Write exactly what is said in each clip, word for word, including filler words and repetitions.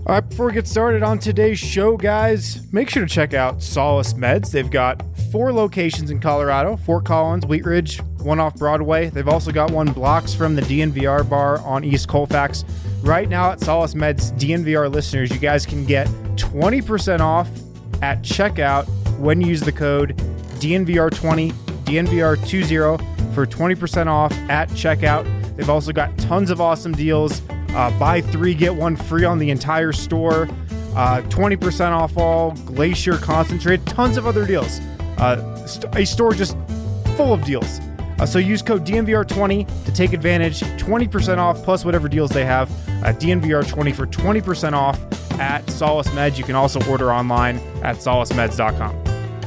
All right, before we get started on today's show, guys, make sure to check out Solace Meds. They've got four locations in Colorado, Fort Collins, Wheat Ridge, one off Broadway. They've also got one blocks from the D N V R bar on East Colfax. Right now at Solace Meds, D N V R listeners, you guys can get twenty percent off at checkout when you use the code D N V R twenty, D N V R twenty for twenty percent off at checkout. They've also got tons of awesome deals. Uh, buy three, get one free on the entire store. Uh, twenty percent off all Glacier Concentrate. Tons of other deals. Uh, st- a store just full of deals. Uh, so use code D N V R twenty to take advantage. twenty percent off plus whatever deals they have. Uh, D N V R twenty for twenty percent off at Solace Meds. You can also order online at solace meds dot com.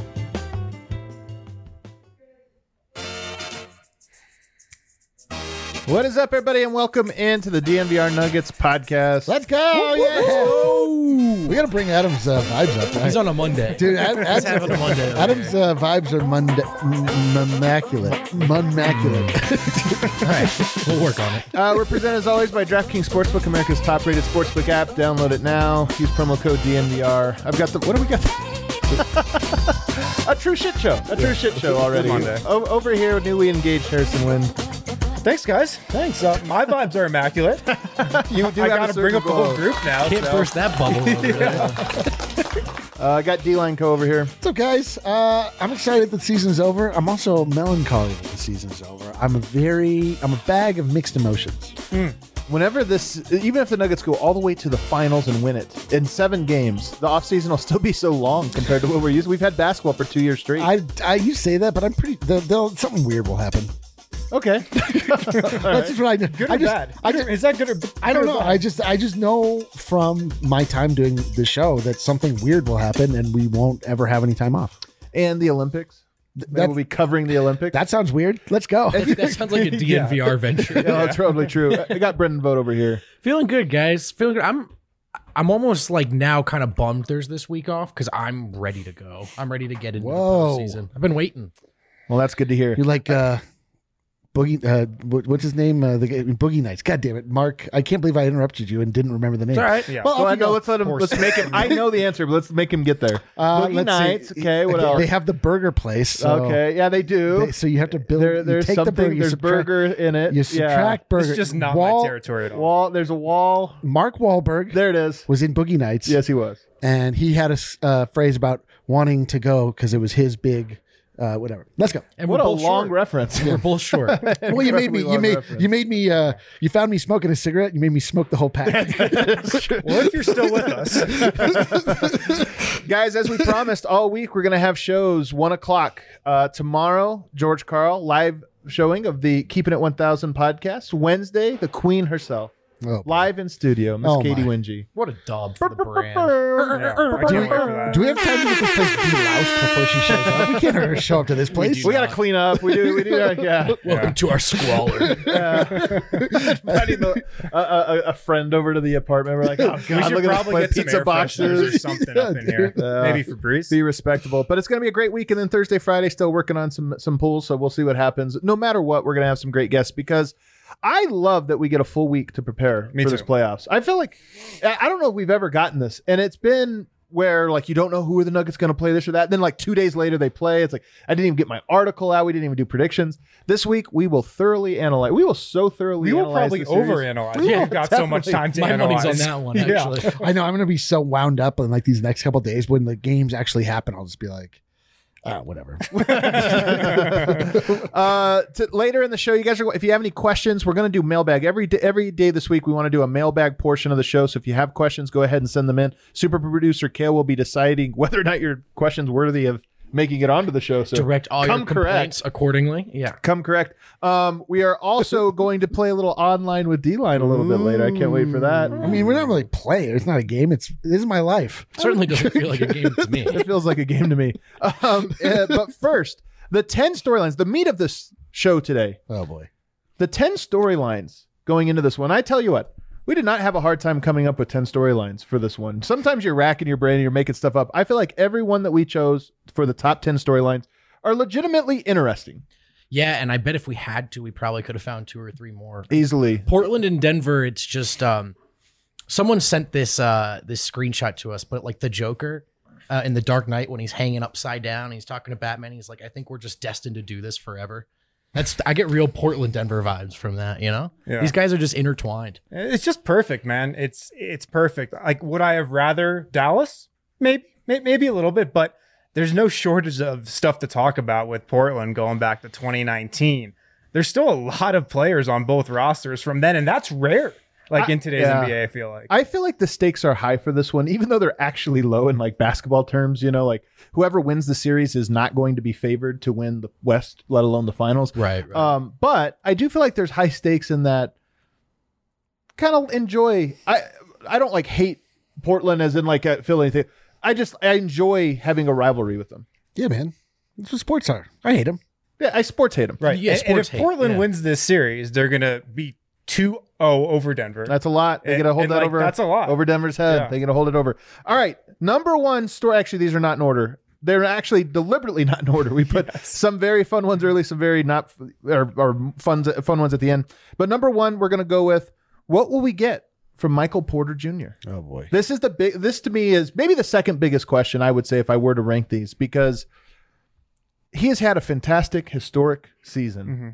What is up, everybody, and welcome into the D N V R Nuggets podcast. Let's go! Yeah. We got to bring Adam's uh, vibes up. Right? He's on a Monday. Dude, Ad, Adam's, having a Monday. Adam's uh, vibes are mund- m- immaculate. Immaculate. All right, we'll work on it. Uh, we're presented, as always, by DraftKings Sportsbook, America's top-rated sportsbook app. Download it now. Use promo code D N V R. I've got the... What do we got? A true shit show. A true shit show already. O- over here, newly engaged Harrison Wind. Thanks, guys. Thanks. Uh, my vibes are immaculate. You do I have got a to bring up the certain whole glow. group now. Can't so. burst that bubble over there. Uh, I got D-Line Co. over here. What's up, guys? Uh, I'm excited that the season's over. I'm also melancholy that the season's over. I'm a very... I'm a bag of mixed emotions. Mm. Whenever this, even if the Nuggets go all the way to the finals and win it in seven games, the offseason will still be so long compared to what we're used to. We've had basketball for two years straight. I, I you say that, but I'm pretty... They'll, they'll, something weird will happen. Okay. That's just what I know. Good I or just, bad? I just, Is that good or I don't know. I just I just know from my time doing the show that something weird will happen and we won't ever have any time off. And the Olympics. Maybe we'll be covering the Olympics. That sounds weird. Let's go. That sounds like a D N V R venture. Yeah, that's probably true. I got Brendan Vogt over here. Feeling good, guys. Feeling good. I'm I'm almost like now kind of bummed there's this week off because I'm ready to go. I'm ready to get into Whoa. the postseason. I've been waiting. Well, that's good to hear. You're like uh, Boogie. Uh, what, what's his name? Uh, the guy- Boogie Nights. God damn it, Mark! I can't believe I interrupted you and didn't remember the name. It's all right. Yeah. Well, Well, off I you know. go. Let's let him. Let's make him. I know the answer, but let's make him get there. Uh, Boogie let's Nights. see. Okay. What else? They have the burger place. So okay. Yeah, they do. they- so you have to build. there, you there's take something. the burger. You there's subtract, burger in it. You subtract burger. It's just not Wall- my territory at all. Wall. There's a wall. Mark Wahlberg There it is. was in Boogie Nights. Yes, he was. and he had a s- uh, phrase about wanting to go because it was his big. Uh, whatever. Let's go. And What we're a both long short. reference. We're both short. Well, you made me. Incredibly You long made. reference. You made me. Uh, you found me smoking a cigarette. You made me smoke the whole pack. Well, if you're still with us. Guys, as we promised, all week we're going to have shows. One o'clock uh, tomorrow. George Carl live showing of the Keeping It one thousand podcast. Wednesday, the Queen herself Oh. live in studio, Miss Oh, Katie my. Wingy. What a dub for the brand. Yeah, I Do can't we, wait for that. do we have time to get this place deloused before she shows up? We can't let her show up to this place. We got to clean up. We do. We do. Uh, yeah. Welcome to our squalor. Finding the, a, a, a friend over to the apartment. We're like, oh We god, should look at this probably place. get some Pizza air fresheners or boxes. something up in here. Yeah. Maybe Febreze. Be respectable, but it's going to be a great week. And then Thursday, Friday, still working on some some pools. So we'll see what happens. No matter what, we're going to have some great guests because I love that we get a full week to prepare Me for too. this playoffs. I feel like I I don't know if we've ever gotten this, and it's been where like you don't know who are the Nuggets going to play this or that. Then like two days later they play. It's like I didn't even get my article out. We didn't even do predictions. This week we will thoroughly analyze. We will so thoroughly. We will analyze probably the series. overanalyze. We Yeah, will we've got so much definitely- time to My analyze. money's on that one, Yeah. actually. I know I'm going to be so wound up in like these next couple of days when the games actually happen. I'll just be like, ah, whatever. uh, to, later in the show, you guys are. If you have any questions, we're going to do mailbag every day. Every day this week, we want to do a mailbag portion of the show. So if you have questions, go ahead and send them in. Super producer Kale will be deciding whether or not your question's worthy of making it onto the show. So Direct all your come complaints correct. accordingly. Yeah. Come correct. Um, we are also going to play a little online with D-Line a little bit later. I can't wait for that. I mean, we're not really playing. It's not a game. It's this is my life. Certainly doesn't feel like a game to me. It feels like a game to me. Um, uh, but first, the ten storylines, the meat of this show today. Oh boy. The ten storylines going into this one. I tell you what, we did not have a hard time coming up with ten storylines for this one. Sometimes you're racking your brain and you're making stuff up. I feel like every one that we chose for the top ten storylines are legitimately interesting. Yeah, and I bet if we had to, we probably could have found two or three more. Easily. Portland and Denver, it's just um Someone sent this uh, this screenshot to us, but like the Joker uh, in The Dark Knight when he's hanging upside down, and he's talking to Batman. He's like, I think we're just destined to do this forever. That's I get real Portland, Denver vibes from that. You know, Yeah. these guys are just intertwined. It's just perfect, man. It's it's perfect. Like, would I have rather Dallas? Maybe, may- maybe a little bit, but there's no shortage of stuff to talk about with Portland going back to twenty nineteen. There's still a lot of players on both rosters from then, and that's rare. Like in today's yeah. N B A, I feel like. I feel like the stakes are high for this one, even though they're actually low in like basketball terms. You know, like whoever wins the series is not going to be favored to win the West, let alone the finals. Right. right. Um, but I do feel like there's high stakes in that. Kind of enjoy. I I don't like hate Portland as in like a Philly thing. I just I enjoy having a rivalry with them. Yeah, man. That's what sports are. I hate them. Yeah, I sports hate them. Right. Yeah, and, and sports if hate, Portland yeah. wins this series, they're gonna be two oh over Denver. That's a lot. They And- get to hold and, that like, over. that's a lot. over Denver's head. Yeah. They get to hold it over. All right, number one story. Actually, these are not in order. They're actually deliberately not in order. We put some very fun ones early, some very not or, or fun fun ones at the end. But number one, we're gonna go with what will we get from Michael Porter Junior? Oh boy. This is the big. This to me is maybe the second biggest question I would say if I were to rank these, because he has had a fantastic historic season. Mm-hmm.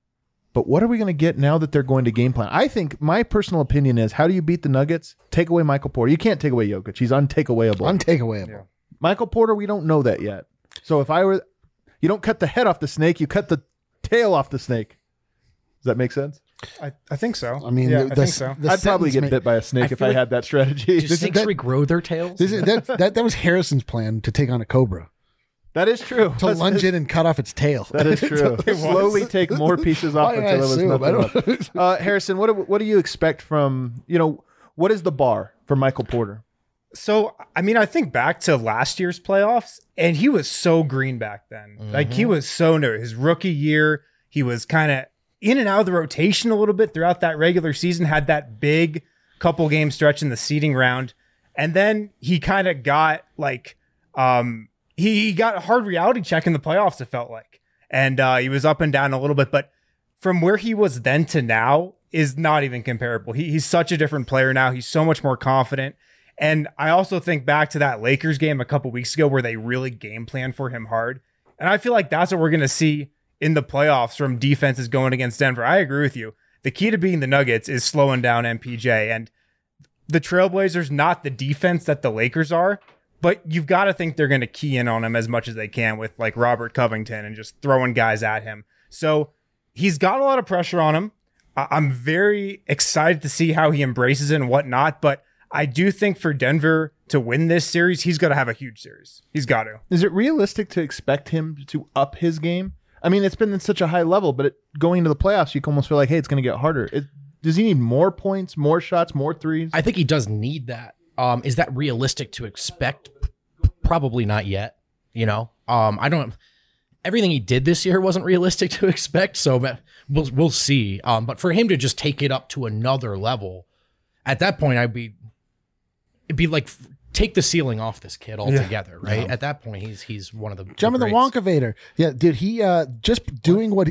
But what are we going to get now that they're going to game plan? I think my personal opinion is, how do you beat the Nuggets? Take away Michael Porter. You can't take away Jokic. He's untakeawayable. Untakeawayable. Yeah. Michael Porter, we don't know that yet. So if I were, you don't cut the head off the snake, you cut the tail off the snake. Does that make sense? I, I think so. I mean, yeah, the, I the, think so. the I'd probably sentence get ma- bit by a snake I if feel I like- had that strategy. Do This is- snakes that- regrow their tails? This is, that, that that was Harrison's plan to take on a cobra, That is true. to That's- lunge in and cut off its tail. That is true. was. Slowly take more pieces off Why did I until it was assume? nothing I don't- left. Uh, Harrison, what do, what do you expect from, you know, what is the bar for Michael Porter? So, I mean, I think back to last year's playoffs, and he was so green back then. Like, he was so new. His rookie year, he was kind of in and out of the rotation a little bit throughout that regular season, had that big couple game stretch in the seeding round. And then he kind of got like, um, he, he got a hard reality check in the playoffs, it felt like. And uh, he was up and down a little bit. But from where he was then to now is not even comparable. He, he's such a different player now. He's so much more confident. And I also think back to that Lakers game a couple weeks ago where they really game planned for him hard. And I feel like that's what we're going to see in the playoffs from defenses going against Denver. I agree with you. The key to beating the Nuggets is slowing down M P J. And the Trailblazers, not the defense that the Lakers are, but you've got to think they're going to key in on him as much as they can with like Robert Covington and just throwing guys at him. So he's got a lot of pressure on him. I- I'm very excited to see how he embraces it and whatnot, but I do think for Denver to win this series, he's got to have a huge series. He's got to. Is it realistic to expect him to up his game? I mean, it's been at such a high level, but it, going into the playoffs, you can almost feel like, hey, it's going to get harder. It, does he need more points, more shots, more threes? I think he does need that. Um, is that realistic to expect? P- Probably not yet. You know, um, I don't. Everything he did this year wasn't realistic to expect, so but we'll we'll see. Um, but for him to just take it up to another level, at that point, I'd be it'd be like f- take the ceiling off this kid altogether, right? At that point, he's he's one of the Jumping the greats. Wonka Vader. Yeah, dude, he uh just doing what he,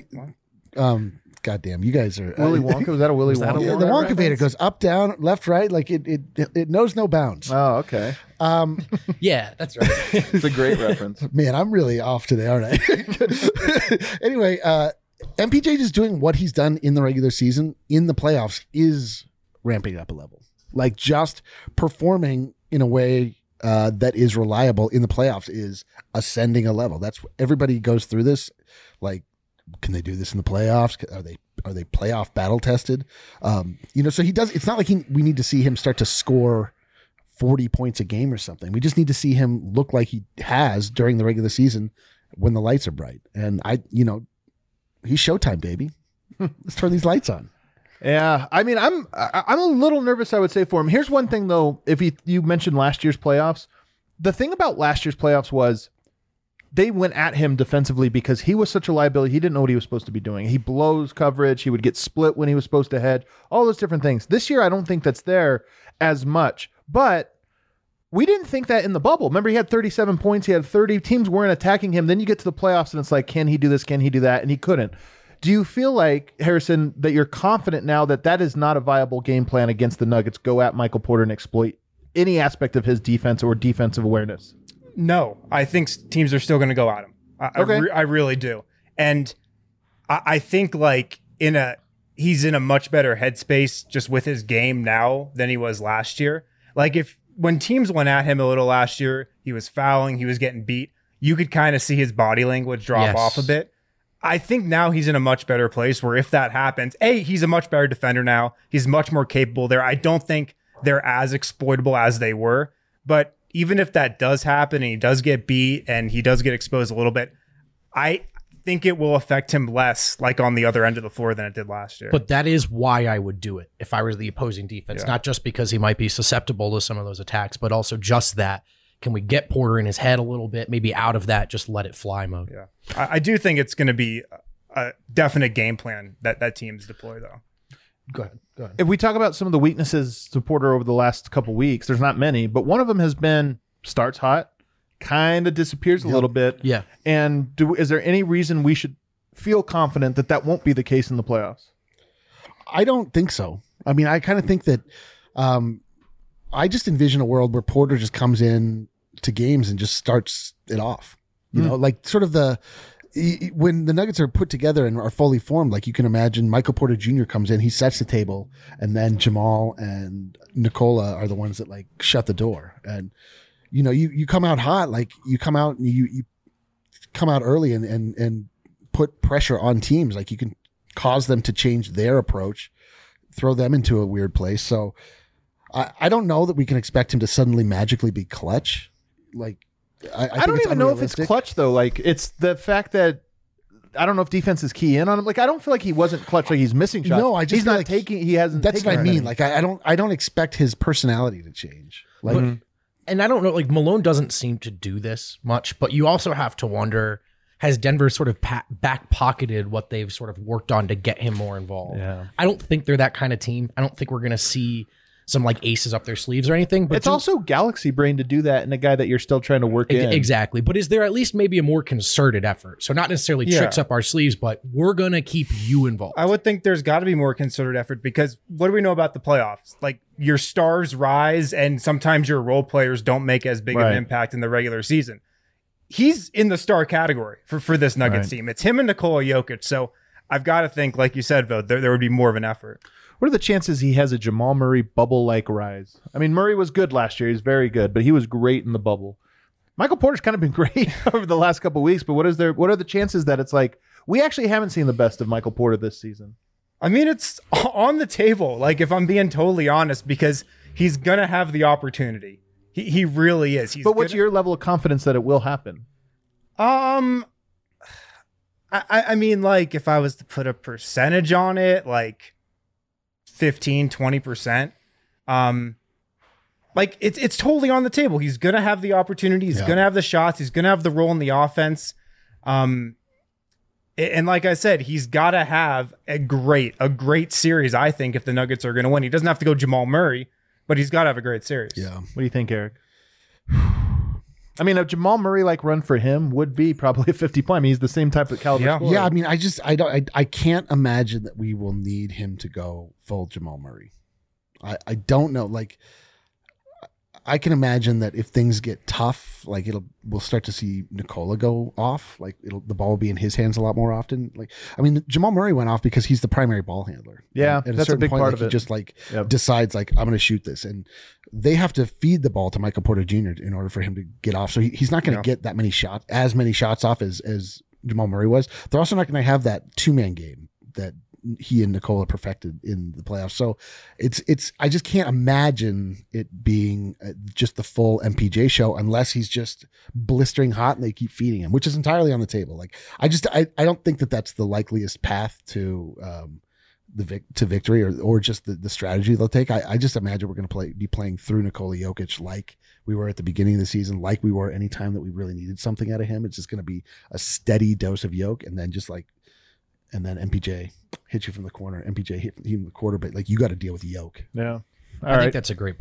um goddamn, you guys are Willy Wonka? Was that a Willy Was that a Wonka? Yeah, the Wonka Wonka Vader reference? goes up, down, left, right, like it it it knows no bounds. Oh, okay. Um Yeah, that's right. It's a great reference. man, I'm really off today, aren't I? Anyway, uh M P J just doing what he's done in the regular season in the playoffs is ramping up a level. Like just performing in a way uh, that is reliable in the playoffs is ascending a level. That's everybody goes through this. Like, can they do this in the playoffs? Are they are they playoff battle tested? Um, you know, so he does. It's not like he, we need to see him start to score forty points a game or something. We just need to see him look like he has during the regular season when the lights are bright. And I, you know, he's Showtime, baby. Let's turn these lights on. Yeah, I mean, I'm I- I'm a little nervous, I would say, for him. Here's one thing, though. If you you mentioned last year's playoffs, the thing about last year's playoffs was they went at him defensively because he was such a liability. He didn't know what he was supposed to be doing. He blows coverage. He would get split when he was supposed to head. All those different things. This year, I don't think that's there as much. But we didn't think that in the bubble. Remember, he had thirty-seven points. He had thirty. Teams weren't attacking him. Then you get to the playoffs, and it's like, can he do this? Can he do that? And he couldn't. Do you feel like, Harrison, that you're confident now that that is not a viable game plan against the Nuggets? Go at Michael Porter and exploit any aspect of his defense or defensive awareness? No, I think s- teams are still going to go at him. I, Okay. I, re- I really do. And I, I think like in a, he's in a much better headspace just with his game now than he was last year. Like if, when teams went at him a little last year, he was fouling, he was getting beat. You could kind of see his body language drop Yes. off a bit. I think now he's in a much better place where if that happens, A, he's a much better defender now. He's much more capable there. I don't think they're as exploitable as they were. But even if that does happen and he does get beat and he does get exposed a little bit, I think it will affect him less like on the other end of the floor than it did last year. But that is why I would do it if I was the opposing defense, Yeah. not just because he might be susceptible to some of those attacks, but also just that. Can we get Porter in his head a little bit, maybe out of that, just let it fly mode? yeah, I, I do think it's going to be a, a definite game plan that, that teams deploy though. Go ahead. Go ahead. If we talk about some of the weaknesses to Porter over the last couple weeks, there's not many, but one of them has been starts hot, kind of disappears a little bit. Yeah. And do, is there any reason we should feel confident that that won't be the case in the playoffs? I don't think so. I mean, I kind of think that um, I just envision a world where Porter just comes in to games and just starts it off. You know, like sort of the y- y- when the Nuggets are put together and are fully formed, like you can imagine Michael Porter Junior comes in, he sets the table, and then Jamal and Nikola are the ones that like shut the door. And you know, you you come out hot, like you come out and you you come out early and and and put pressure on teams, like you can cause them to change their approach, throw them into a weird place. So I, I don't know that we can expect him to suddenly magically be clutch. Like I, I, I, think don't it's even know if it's unrealistic. clutch though. Like it's the fact that I don't know if defense is key in on him. Like I don't feel like he wasn't clutch. Like he's missing shots. No, I just he's feel not like taking. He hasn't. That's taken what I many. mean. Like I, I don't I don't expect his personality to change. Like But- and I don't know, like Malone doesn't seem to do this much, but you also have to wonder, has Denver sort of pa- back pocketed what they've sort of worked on to get him more involved? Yeah. I don't think they're that kind of team. I don't think we're going to see some like aces up their sleeves or anything. But It's just- also galaxy brain to do that in a guy that you're still trying to work E- in. Exactly. But is there at least maybe a more concerted effort? So not necessarily Yeah. tricks up our sleeves, but we're going to keep you involved. I would think there's got to be more concerted effort because what do we know about the playoffs? Like your stars rise and sometimes your role players don't make as big of Right. an impact in the regular season. He's in the star category for, for this Nuggets Right. team. It's him and Nikola Jokic. So I've got to think, like you said, Vo, there, there would be more of an effort. What are the chances he has a Jamal Murray bubble-like rise? I mean, Murray was good last year. He's very good, but he was great in the bubble. Michael Porter's kind of been great over the last couple of weeks, but what is there? What are the chances that it's like we actually haven't seen the best of Michael Porter this season? I mean, it's on the table. Like if I'm being totally honest, because he's going to have the opportunity. He, he really is. He's But what's gonna- your level of confidence that it will happen? Um, I, I I mean, like, if I was to put a percentage on it, like fifteen, twenty percent, um, like it's it's totally on the table. He's gonna have the opportunity. He's Yeah. gonna have the shots. He's gonna have the role in the offense. Um, a- and like I said, he's got to have a great, a great series. I think if the Nuggets are gonna win, he doesn't have to go Jamal Murray, but he's got to have a great series. yeah. What do you think, Eric? I mean, a Jamal Murray like run for him would be probably a fifty point. I mean, he's the same type of caliber. Yeah. scorer. Yeah, I mean, I just I don't I, I can't imagine that we will need him to go full Jamal Murray. I I don't know. Like, I can imagine that if things get tough, like it'll we'll start to see Nikola go off. Like it'll the ball will be in his hands a lot more often. Like I mean, Jamal Murray went off because he's the primary ball handler. Yeah, And at that's a certain big point, part like, of it. He just like Yep. decides like I'm going to shoot this, and they have to feed the ball to Michael Porter Junior in order for him to get off. So he, he's not going to Yeah. get that many shots, as many shots off as as Jamal Murray was. They're also not going to have that two man game that he and Nikola perfected in the playoffs. So it's it's I just can't imagine it being uh, just the full M P J show unless he's just blistering hot and they keep feeding him, which is entirely on the table. Like I just I, I don't think that that's the likeliest path to um the vic- to victory or or just the, the strategy they'll take. I, I just imagine we're going to play be playing through Nikola Jokic like we were at the beginning of the season, like we were anytime that we really needed something out of him. It's just going to be a steady dose of Joke, and then just like and then M P J hits you from the corner. M P J hit you from the quarter, but like you got to deal with Yoke. Yeah. All I right. think that's a great point.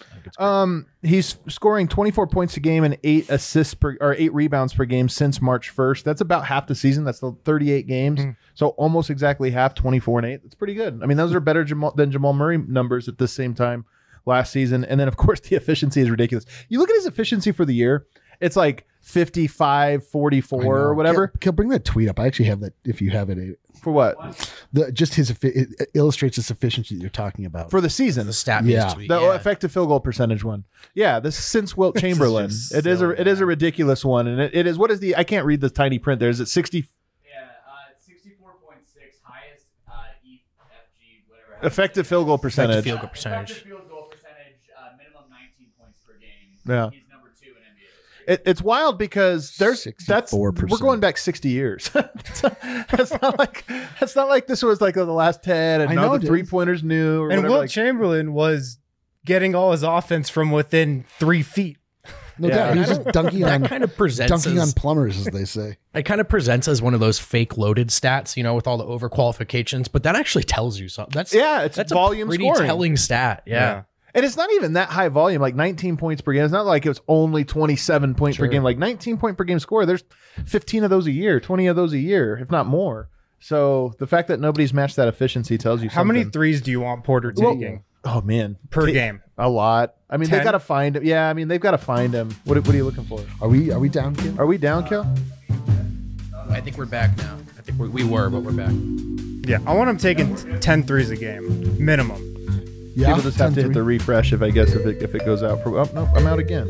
Um, he's scoring twenty-four points a game and eight assists per or eight rebounds per game since March first. That's about half the season. That's the thirty-eight games. Mm. So almost exactly half, twenty-four and eight. That's pretty good. I mean, those are better Jamal, than Jamal Murray numbers at the same time last season. And then, of course, the efficiency is ridiculous. You look at his efficiency for the year, it's like fifty-five, forty-four or whatever. Can, can bring that tweet up. I actually have that if you have it. For what? The just his it illustrates this efficiency that you're talking about for the season. The stat, yeah, tweet, the yeah. effective field goal percentage one. Yeah, this is since Wilt Chamberlain. This is it is a silly, it is a man. ridiculous one, and it, it is what is the I can't read the tiny print there. Is it sixty? Yeah, uh, sixty-four point six, highest uh, E F G, whatever. Effective field goal percentage. Field goal percentage. Effective field goal percentage, uh, minimum nineteen points per game. Yeah. He's number two in N B A. It, it's wild because there's that's sixty-four we're percent. going back sixty years. That's not like that's not like this was like the last ten and I now know, the dude. three pointers new or And whatever. Wilt like- Chamberlain was getting all his offense from within three feet. No Yeah. doubt. He was just dunking That on kind of presents dunking on as, plumbers, as they say. it kind of presents as one of those fake loaded stats, you know, with all the overqualifications. But that actually tells you something. That's Yeah, it's that's volume a pretty scoring. telling stat. Yeah. And it's not even that high volume, like nineteen points per game. It's not like it was only twenty-seven points per Sure. game, like nineteen point per game score. There's fifteen of those a year, twenty of those a year, if not more. So the fact that nobody's matched that efficiency tells you How many something. threes do you want Porter Well, taking oh man, per Ta- game? A lot. I mean, they ten? got to find him. Yeah, I mean, they've got to find him. What, what are you looking for? Are we are we down, Kim? Are we down, Kill? I think we're back now. I think we we were, but we're back. Yeah, I want him taking ten threes a game, minimum. Yeah. People just have to hit ten the three. refresh if I guess if it if it goes out for. Oh no, I'm out again.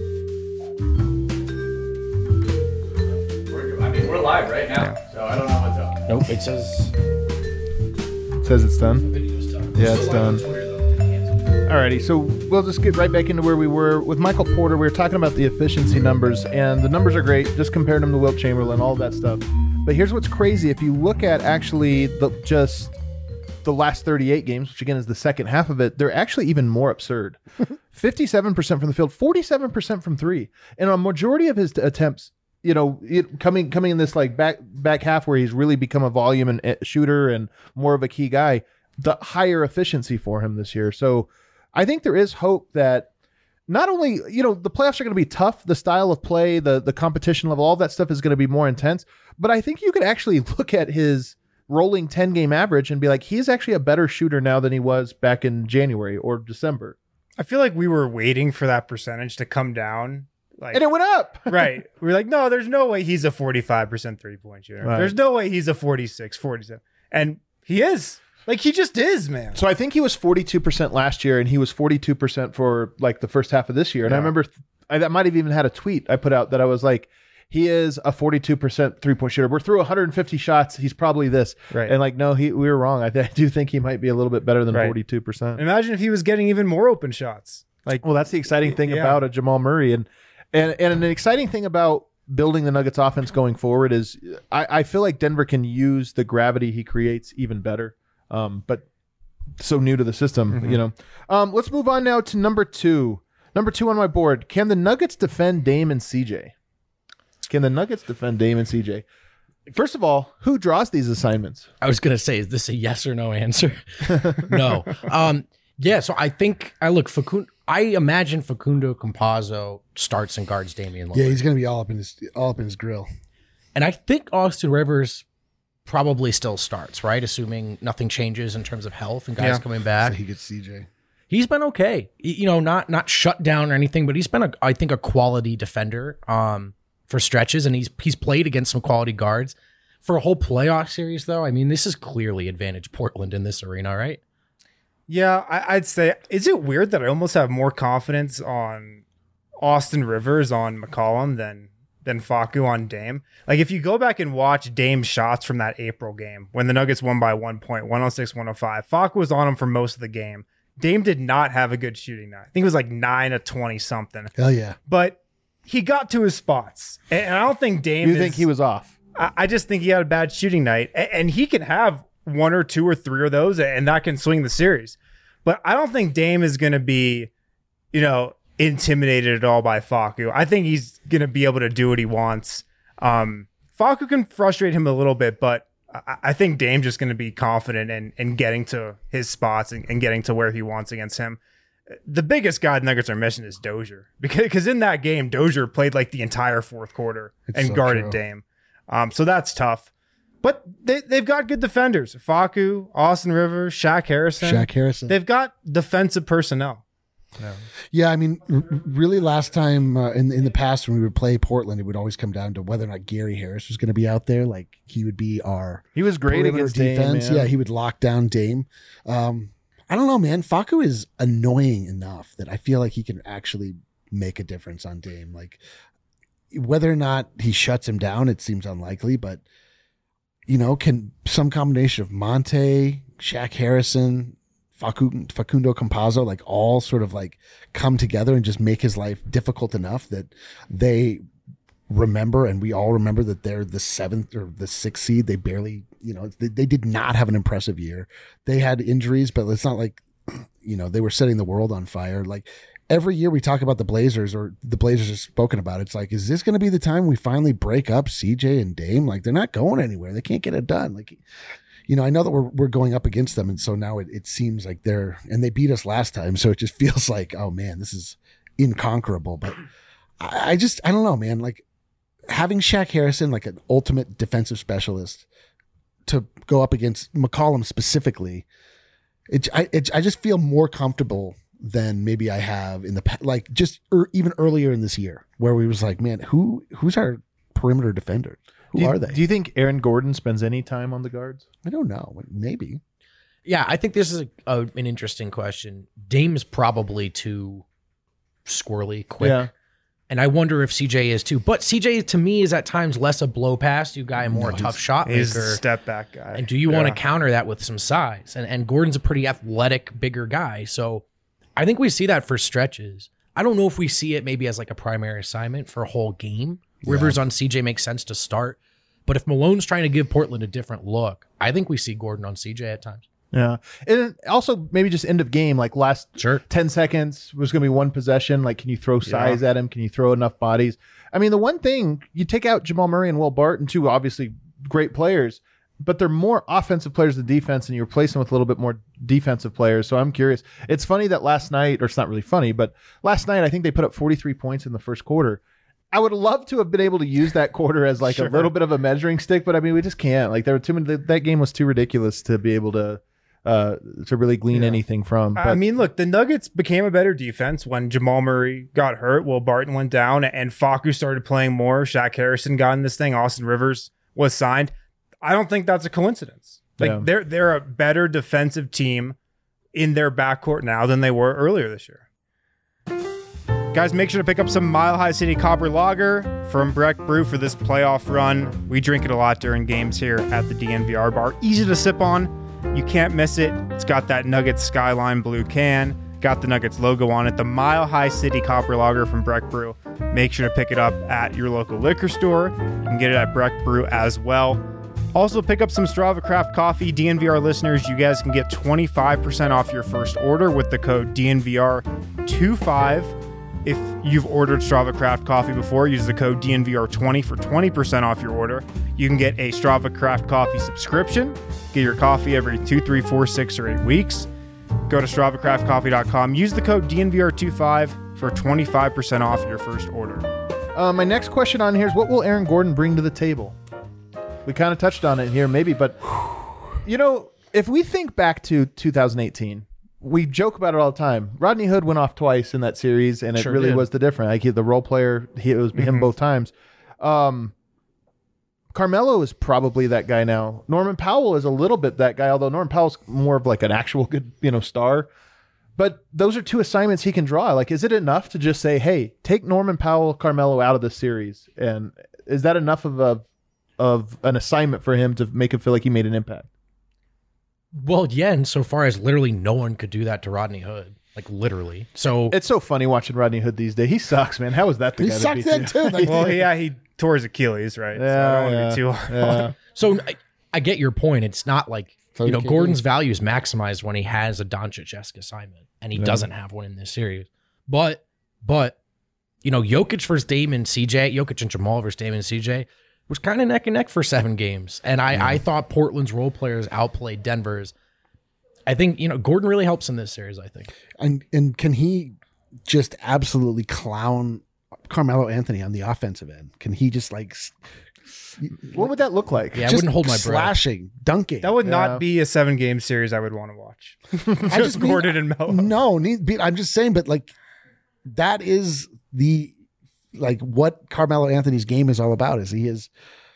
We're, I mean, we're live right now, so I don't know what's up. Nope. It says It says it's done. Yeah, it's done. Alrighty, so we'll just get right back into where we were with Michael Porter. We were talking about the efficiency numbers, and the numbers are great. Just compared them to Wilt Chamberlain, all that stuff. But here's what's crazy: if you look at actually the just the last thirty-eight games, which again is the second half of it, they're actually even more absurd. fifty-seven percent from the field, forty-seven percent from three, and a majority of his attempts, you know, it, coming coming in this like back back half where he's really become a volume and uh, shooter and more of a key guy. The higher efficiency for him this year. So I think there is hope that not only, you know, the playoffs are going to be tough, the style of play, the the competition level, all that stuff is going to be more intense, but I think you could actually look at his rolling ten game average and be like, he's actually a better shooter now than he was back in January or December. I feel like we were waiting for that percentage to come down. Like, And it went up. right. We were like, no, there's no way he's a forty-five percent three-point shooter. Right. There's no way he's a forty-six, forty-seven. And he is. Like, he just is, man. So I think he was forty-two percent last year and he was forty-two percent for like the first half of this year. And I Yeah. remember th- I that might have even had a tweet I put out that I was like, he is a forty-two percent three-point shooter. We're through one hundred fifty shots. He's probably this. Right. And like, no, he we were wrong. I, th- I do think he might be a little bit better than Right. forty-two percent. Imagine if he was getting even more open shots. Like, Well, that's the exciting thing Yeah. about a Jamal Murray. And, and, and an exciting thing about building the Nuggets offense going forward is I, I feel like Denver can use the gravity he creates even better. Um, but so new to the system, Mm-hmm. you know. Um, let's move on now to number two. Number two on my board. Can the Nuggets defend Dame and C J? Can the Nuggets defend Dame and C J? First of all, who draws these assignments? I was gonna say, is this a yes or no answer? No. Um. Yeah. So I think I look Facundo. I imagine Facundo Campazzo starts and guards Damian Lillard. Yeah, he's gonna be all up in his all up in his grill. And I think Austin Rivers probably still starts, right? Assuming nothing changes in terms of health and guys Yeah. coming So back. he gets C J. He's been okay. Y- You know, not not shut down or anything, but he's been a I think a quality defender um for stretches, and he's he's played against some quality guards. For a whole playoff series though, I mean, this is clearly advantage Portland in this arena, right? yeah, I, I'd say, is it weird that I almost have more confidence on Austin Rivers on McCollum than than Facu on Dame? Like, if you go back and watch Dame's shots from that April game when the Nuggets won by one point, one oh six, one oh five, Facu was on him for most of the game. Dame did not have a good shooting night. I think it was like nine to twenty something, Hell yeah. but he got to his spots. And and I don't think Dame You is, think he was off? I I just think he had a bad shooting night, A- and he can have one or two or three of those, and that can swing the series. But I don't think Dame is going to be, you know, intimidated at all by Facu. I think he's going to be able to do what he wants. Um, Facu can frustrate him a little bit, but I, I think Dame's just going to be confident in, in getting to his spots and, and getting to where he wants against him. the biggest guy the Nuggets are missing is Dozier because because in that game Dozier played like the entire fourth quarter It's and so guarded true. Dame. Um, so that's tough. But they they've got good defenders: Facu, Austin Rivers, Shaq Harrison. Shaq Harrison. They've got defensive personnel. Yeah, I mean, r- really, last time uh, in in the past when we would play Portland, it would always come down to whether or not Gary Harris was going to be out there. Like he would be our He was great perimeter against Dame, defense. man. Yeah, he would lock down Dame. Um, I don't know, man. Facu is annoying enough that I feel like he can actually make a difference on Dame. Like whether or not he shuts him down, it seems unlikely, but you know, can some combination of Monte, Shaq Harrison, Facu- Facundo Campazzo, like all sort of like come together and just make his life difficult enough that they remember, and we all remember that they're the seventh or the sixth seed. They barely, you know, they, they did not have an impressive year. They had injuries, but it's not like, you know, they were setting the world on fire. Like every year we talk about the Blazers, or the Blazers are spoken about. It's like, is this going to be the time we finally break up C J and Dame? Like they're not going anywhere. They can't get it done. Like, you know, I know that we're we're going up against them, and so now it, it seems like they're, and they beat us last time, so it just feels like, oh man, this is inconquerable. But I, I just I don't know, man. Like having Shaq Harrison, like an ultimate defensive specialist, to go up against McCollum specifically, it I it, I just feel more comfortable than maybe I have in the pa- like just er, even earlier in this year, where we was like, man, who who's our perimeter defender? Who do you, are they? Do you think Aaron Gordon spends any time on the guards? I don't know. Maybe. Yeah, I think this is a, a, an interesting question. Dame is probably too squirrely, quick. Yeah. And I wonder if C J is too. But C J, to me, is at times less a blow past you guy, more No, a tough he's- shot He's maker. a step back guy. And do you want Yeah. to counter that with some size? And and Gordon's a pretty athletic, bigger guy. So I think we see that for stretches. I don't know if we see it maybe as like a primary assignment for a whole game. Rivers on C J makes sense to start. But if Malone's trying to give Portland a different look, I think we see Gordon on C J at times. Yeah. And also maybe just end of game, like last Sure. ten seconds was going to be one possession. Like, can you throw size at him? Can you throw enough bodies? I mean, the one thing, you take out Jamal Murray and Will Barton, two obviously great players, but they're more offensive players than defense, and you replace them with a little bit more defensive players. So I'm curious. It's funny that last night, or it's not really funny, but last night I think they put up forty-three points in the first quarter. I would love to have been able to use that quarter as like Sure. a little bit of a measuring stick, but I mean, we just can't. Like there were too many. That game was too ridiculous to be able to uh, to really glean anything from. But I mean, look, the Nuggets became a better defense when Jamal Murray got hurt, Will Barton went down, and Facu started playing more. Shaq Harrison got in this thing. Austin Rivers was signed. I don't think that's a coincidence. Like Yeah. they're they're a better defensive team in their backcourt now than they were earlier this year. Guys, make sure to pick up some Mile High City Copper Lager from Breck Brew for this playoff run. We drink it a lot during games here at the D N V R bar. Easy to sip on. You can't miss it. It's got that Nuggets Skyline blue can. Got the Nuggets logo on it. The Mile High City Copper Lager from Breck Brew. Make sure to pick it up at your local liquor store. You can get it at Breck Brew as well. Also, pick up some Strava Craft coffee. D N V R listeners, you guys can get twenty-five percent off your first order with the code D N V R twenty-five. If you've ordered Strava Craft coffee before, use the code D N V R twenty for twenty percent off your order. You can get a Strava Craft coffee subscription. Get your coffee every two, three, four, six, or eight weeks. Go to strava craft coffee dot com. Use the code D N V R twenty-five for twenty-five percent off your first order. Uh, my next question on here is, what will Aaron Gordon bring to the table? We kind of touched on it here, maybe, but you know, if we think back to two thousand eighteen, we joke about it all the time. Rodney Hood went off twice in that series, and it Sure really did. was the difference. Like he, the role player, he, it was him both times. Um, Carmelo is probably that guy now. Norman Powell is a little bit that guy, although Norman Powell's more of like an actual good, you know, star. But those are two assignments he can draw. Like, is it enough to just say, hey, take Norman Powell, Carmelo out of this series? And is that enough of a of an assignment for him to make him feel like he made an impact? Well, yeah, and so far as literally no one could do that to Rodney Hood. Like literally. So It's so funny watching Rodney Hood these days. He sucks, man. How is that the He guy? to sucked beat then you? too. Like, Well, yeah, he tore his Achilles, right? so I Yeah, don't want to yeah, be too hard. yeah. so I, I get your point. It's not like So you you know, can't Gordon's do- value is maximized when he has a Doncic-esque assignment, and he doesn't have one in this series. But, but, you know, Jokic versus Dame and C J, Jokic and Jamal versus Dame and C J was kind of neck and neck for seven games. And I, I thought Portland's role players outplayed Denver's. I think, you know, Gordon really helps in this series, I think. And and can he just absolutely clown Carmelo Anthony on the offensive end? Can he just like s- What would that look like? Yeah, I just wouldn't hold my breath. slashing, dunking? That would Yeah. not be a seven game series I would want to watch. I Just mean- Gordon and Melo. No, need, be- I'm just saying, but like that is the like what Carmelo Anthony's game is all about. Is he is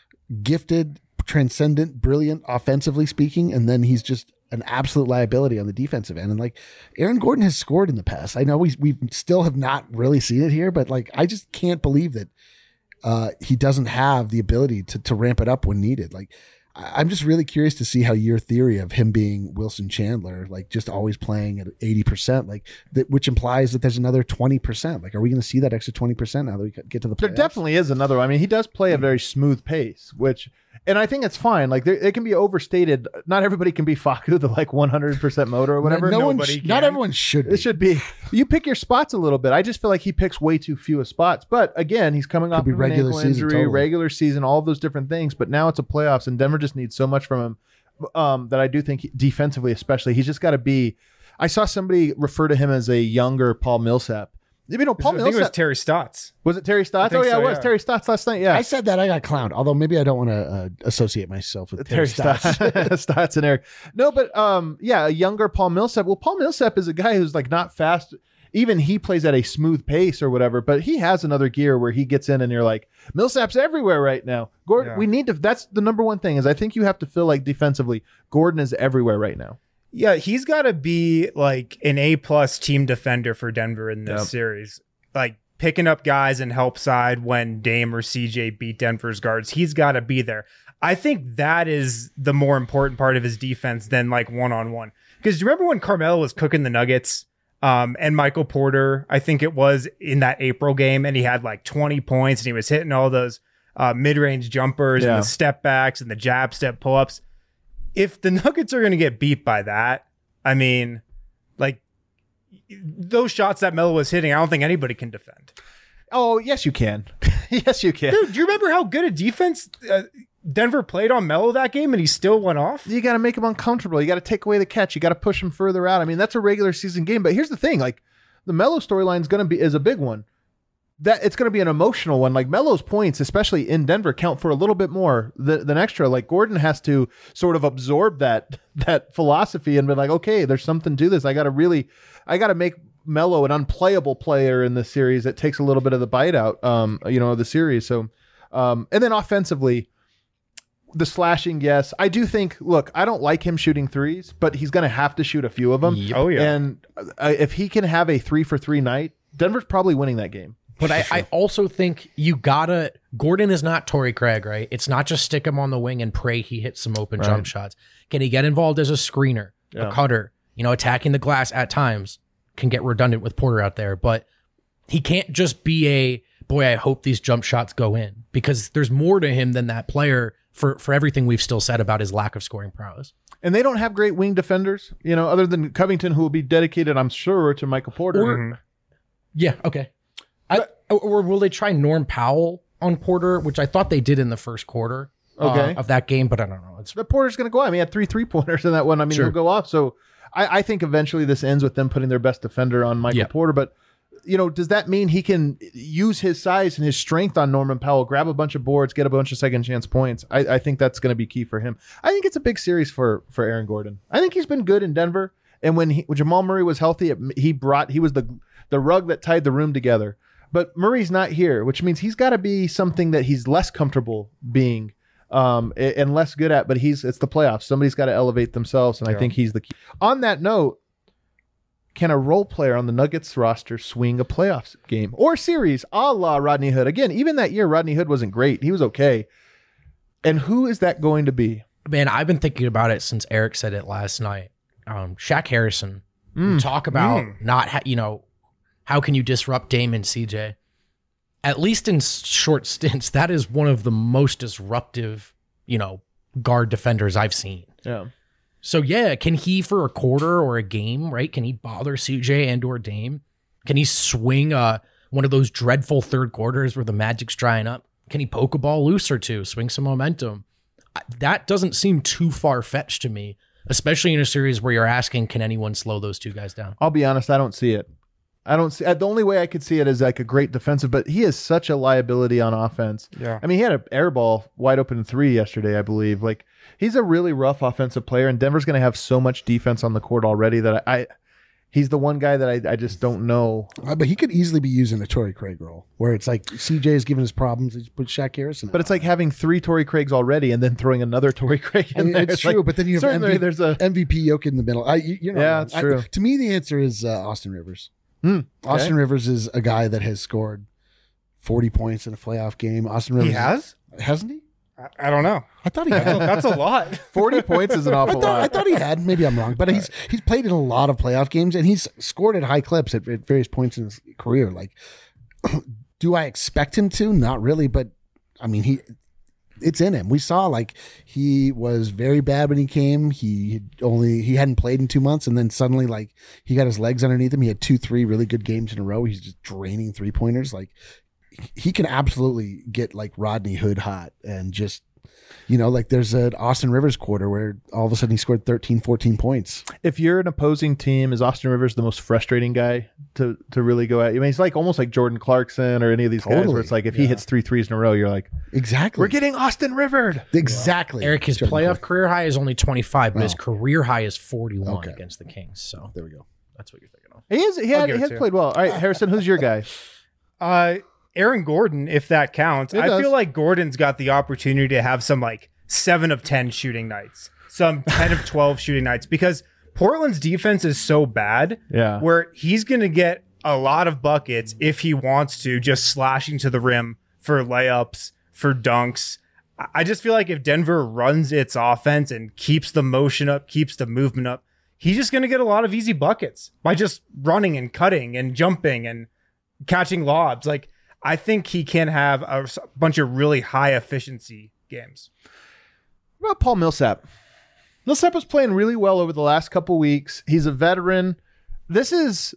gifted, transcendent, brilliant, offensively speaking, and then he's just an absolute liability on the defensive end. And like Aaron Gordon has scored in the past. I know we we still have not really seen it here, but like I just can't believe that uh, he doesn't have the ability to to ramp it up when needed. Like I- I'm just really curious to see how your theory of him being Wilson Chandler, like just always playing at eighty percent, like that, which implies that there's another twenty percent. Like, are we going to see that extra twenty percent now that we get to the playoffs? There definitely is another. I mean, he does play a very smooth pace, which, and I think it's fine. Like, there, it can be overstated. Not everybody can be Facu, the like one hundred percent motor or whatever. No, no one, Nobody sh- not can. everyone should. Be. It should be. You pick your spots a little bit. I just feel like he picks way too few of spots. But again, he's coming off be of an regular ankle season, injury, totally. regular season, all those different things. But now it's a playoffs, and Denver just needs so much from him. Um, that I do think he, defensively, especially, he's just got to be. I saw somebody refer to him as a younger Paul Millsap. You know, Paul I think it was Millsap. Terry Stotts. Was it Terry Stotts? think Oh yeah, so, it was yeah. Terry Stotts last night. Yeah, I said that I got clowned. Although maybe I don't want to uh, associate myself with Terry, Terry Stotts. Stotts and Eric. No, but um, yeah, a younger Paul Millsap. Well, Paul Millsap is a guy who's like not fast. Even he plays at a smooth pace or whatever, but he has another gear where he gets in and you're like, Millsap's everywhere right now. Gordon, Yeah. we need to. That's the number one thing is I think you have to feel like defensively, Gordon is everywhere right now. Yeah, he's got to be like an A plus team defender for Denver in this Yep. series. Like picking up guys and help side when Dame or C J beat Denver's guards. He's got to be there. I think that is the more important part of his defense than like one on one. Because do you remember when Carmelo was cooking the Nuggets? Um, and Michael Porter, I think it was in that April game, and he had like twenty points and he was hitting all those uh, mid-range jumpers Yeah. and the step backs and the jab step pull-ups. If the Nuggets are going to get beat by that, I mean, like those shots that Melo was hitting, I don't think anybody can defend. Oh, yes, you can. yes, you can. Dude, do you remember how good a defense uh, Denver played on Melo that game and he still went off? You got to make him uncomfortable. You got to take away the catch. You got to push him further out. I mean, that's a regular season game. But here's the thing: like the Melo storyline is going to be is a big one. That it's going to be an emotional one. Like Melo's points, especially in Denver, count for a little bit more than, than extra. Like Gordon has to sort of absorb that that philosophy and be like, okay, there's something to this. I got to really, I got to make Melo an unplayable player in this series. That takes a little bit of the bite out, um, you know, of the series. So, um, and then offensively. The slashing, yes. I do think, look, I don't like him shooting threes, but he's going to have to shoot a few of them. Yep. Oh, yeah. And uh, if he can have a three for three night, Denver's probably winning that game. But I, I also think you gotta. Gordon is not Torrey Craig, right? It's not just stick him on the wing and pray he hits some open jump shots. Can he get involved as a screener, Yeah. a cutter? You know, attacking the glass at times can get redundant with Porter out there, but he can't just be a boy. I hope these jump shots go in because there's more to him than that player. For for everything we've still said about his lack of scoring prowess. And they don't have great wing defenders, you know, other than Covington, who will be dedicated, I'm sure, to Michael Porter. Or- Yeah, okay. I, or will they try Norm Powell on Porter, which I thought they did in the first quarter uh, Okay. of that game, but I don't know. It's But Porter's going to go out. I mean, he had three three pointers in that one. I mean, Sure. he'll go off. So I, I think eventually this ends with them putting their best defender on Michael Yeah. Porter. But, you know, does that mean he can use his size and his strength on Norman Powell, grab a bunch of boards, get a bunch of second chance points? I, I think that's going to be key for him. I think it's a big series for for Aaron Gordon. I think he's been good in Denver. And when, he, when Jamal Murray was healthy, it, he brought he was the the rug that tied the room together. But Murray's not here, which means he's got to be something that he's less comfortable being um, and less good at. But he's it's the playoffs. Somebody's got to elevate themselves, and I Yeah. think he's the key. On that note, can a role player on the Nuggets roster swing a playoffs game or series a la Rodney Hood? Again, even that year, Rodney Hood wasn't great. He was okay. And who is that going to be? Man, I've been thinking about it since Eric said it last night. Um, Shaq Harrison. We talk about Mm. not, ha- you know, how can you disrupt Dame and C J? At least in s- short stints, that is one of the most disruptive, you know, guard defenders I've seen. Yeah. So yeah, can he for a quarter or a game, right? Can he bother C J and or Dame? Can he swing uh, one of those dreadful third quarters where the magic's drying up? Can he poke a ball loose or two, swing some momentum? I- That doesn't seem too far-fetched to me especially in a series where you're asking, can anyone slow those two guys down? I'll be honest, I don't see it. I don't see. The only way I could see it is like a great defensive, but he is such a liability on offense. Yeah. I mean, he had an air ball wide open three yesterday, I believe. Like, he's a really rough offensive player, and Denver's going to have so much defense on the court already that I, I he's the one guy that I, I just don't know. Uh, but he could easily be using a Torrey Craig role where it's like C J is giving us problems. He put Shaq Harrison. But it's like having three Torrey Craigs already and then throwing another Torrey Craig in I mean, there. it's true, like, but then you have certainly M V P, there's a M V P Jokic in the middle. I, you, you're not Yeah, wrong. it's I- true. to me, the answer is uh, Austin Rivers. Hmm, Austin Rivers is a guy that has scored forty points in a playoff game. Austin Rivers He has? hasn't he? I, I don't know. I thought he That's a, had. that's a lot. forty points is an I awful thought, I lot. thought he had. Maybe I'm wrong, but he's he's played in a lot of playoff games and he's scored at high clips at, at various points in his career. Like, do I expect him to? Not really, but I mean, he it's in him. We saw like he was very bad when he came. He had only he hadn't played in two months, and then suddenly like he got his legs underneath him. He had two, three really good games in a row. He's just draining three pointers. Like he can absolutely get like Rodney Hood hot and just. You know, like there's an Austin Rivers quarter where all of a sudden he scored thirteen, fourteen points. If you're an opposing team, is Austin Rivers the most frustrating guy to to really go at? I mean, he's like almost like Jordan Clarkson or any of these guys Totally. where it's like if he hits three threes in a row, you're like, Exactly. we're getting Austin Rivered. exactly. Eric, his Jordan playoff Clark. career high is only twenty-five, but his Oh. career high is forty-one Okay. against the Kings. So There we go. that's what you're thinking of. He is. He, I'll had, give he it has to you. played well. All right, Harrison, who's your guy? Uh, Aaron Gordon, if that counts. It I does. feel like Gordon's got the opportunity to have some like seven of ten shooting nights, some ten of twelve shooting nights, because Portland's defense is so bad Yeah. where he's going to get a lot of buckets if he wants to, just slashing to the rim for layups, for dunks. I- I just feel like if Denver runs its offense and keeps the motion up, keeps the movement up, he's just going to get a lot of easy buckets by just running and cutting and jumping and catching lobs. Like, I think he can have a s- bunch of really high efficiency games. What about Paul Millsap? Millsap was playing really well over the last couple weeks. He's a veteran. This is,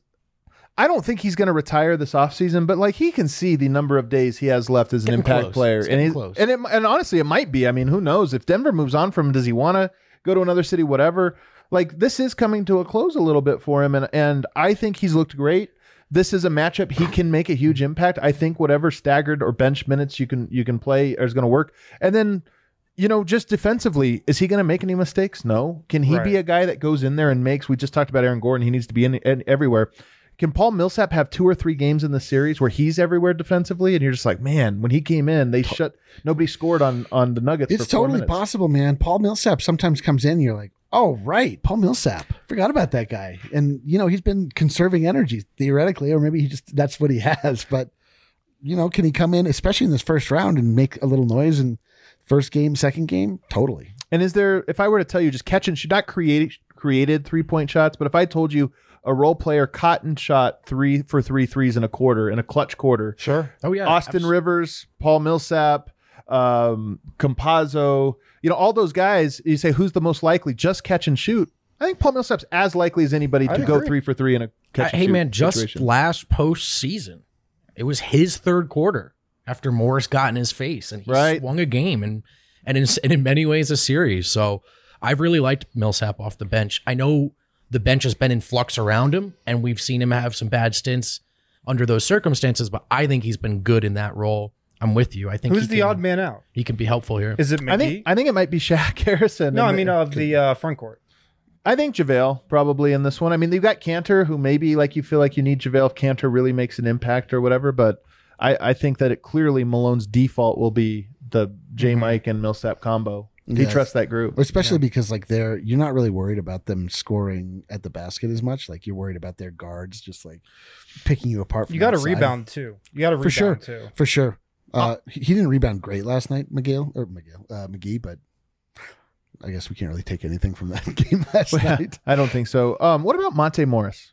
I don't think he's going to retire this offseason, but like he can see the number of days he has left as an Getting impact close. player. It's And, getting he's, close. and, it, and honestly, it might be. I mean, who knows? If Denver moves on from him, does he want to go to another city, whatever? Like this is coming to a close a little bit for him. And, and I think he's looked great. This is a matchup he can make a huge impact. I think whatever staggered or bench minutes you can you can play is going to work. And then, you know, just defensively, is he going to make any mistakes? No. Can he be Right. a guy that goes in there and makes? We just talked about Aaron Gordon. He needs to be in, in everywhere. Can Paul Millsap have two or three games in the series where he's everywhere defensively, and you're just like, man, when he came in, they shut. Nobody scored on on the Nuggets. It's for four totally minutes. possible, man. Paul Millsap sometimes comes in and you're like, oh, right. Paul Millsap. Forgot about that guy. And, you know, he's been conserving energy theoretically, or maybe he just, that's what he has. But, you know, can he come in, especially in this first round, and make a little noise in first game, second game? Totally. And is there, if I were to tell you, just catch and shoot, not created created three point shots, but if I told you a role player caught and shot three for three threes in a quarter, in a clutch quarter, Sure. Oh yeah, Austin abs- Rivers, Paul Millsap, um, Campazzo, you know, all those guys, you say, who's the most likely? Just catch and shoot. I think Paul Millsap's as likely as anybody to I'd go agree. three for three in a catch Uh, and hey shoot man, just situation. last postseason, it was his third quarter after Morris got in his face, and he Right. swung a game and and in, and in many ways a series. So I've really liked Millsap off the bench. I know the bench has been in flux around him, and we've seen him have some bad stints under those circumstances, but I think he's been good in that role. I'm with you. I think Who's he the can, odd man out? He can be helpful here. Is it McGee? I think I think it might be Shaq Harrison. no, in I the- mean of the uh, front court. I think JaVale probably in this one. I mean, they've got Cantor, who maybe like you feel like you need JaVale if Cantor really makes an impact or whatever. But I, I think that it clearly Malone's default will be the J Mike and Millsap combo. He Yes. trusts that group. Especially because like they're you're not really worried about them scoring at the basket as much. Like you're worried about their guards just like picking you apart. From You got to outside. rebound too. You got to For rebound sure. too. for sure. Uh, he he didn't rebound great last night, Miguel or Miguel uh, McGee, but I guess we can't really take anything from that game last night. I don't think so. Um, what about Monte Morris?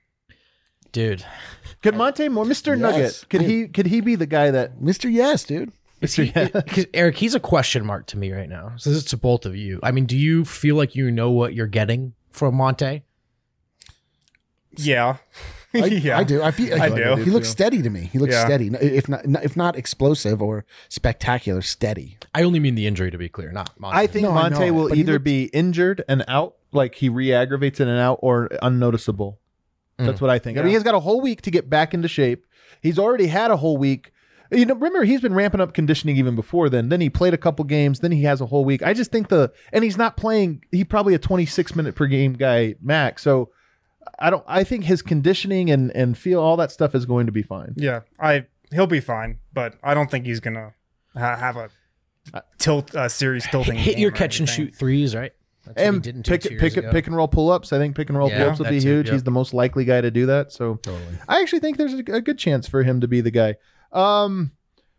Dude, Could Monte Morris, Mister Yes. Nugget, could he could he be the guy that? Mister Yes, dude. Is he, because Eric, he's a question mark to me right now. So this is to both of you. I mean, do you feel like you know what you're getting from Monte? Yeah. I, Yeah. I do. I feel. I do. He looks steady to me. He looks Yeah. steady. If not, if not explosive or spectacular, steady. I only mean the injury to be clear, not Monte. I think No, I Monte know, will but he either looks- be injured and out, like he re-aggravates it and out, or unnoticeable. That's what I think. I mean, Yeah. he's got a whole week to get back into shape. He's already had a whole week. You know, remember he's been ramping up conditioning even before then. Then he played a couple games. Then he has a whole week. I just think the and he's not playing. He probably a twenty-six minute per game guy max. So I don't. I think his conditioning and and feel all that stuff is going to be fine. Yeah, I he'll be fine, but I don't think he's gonna ha- have a tilt uh, series tilting. hit game your or catch and anything. shoot threes, right? That's what he And didn't do pick two pick years ago. pick and roll pull ups. I think pick and roll Yeah, pull ups will that be too, huge. yep. He's the most likely guy to do that. So Totally. I actually think there's a, a good chance for him to be the guy. Um,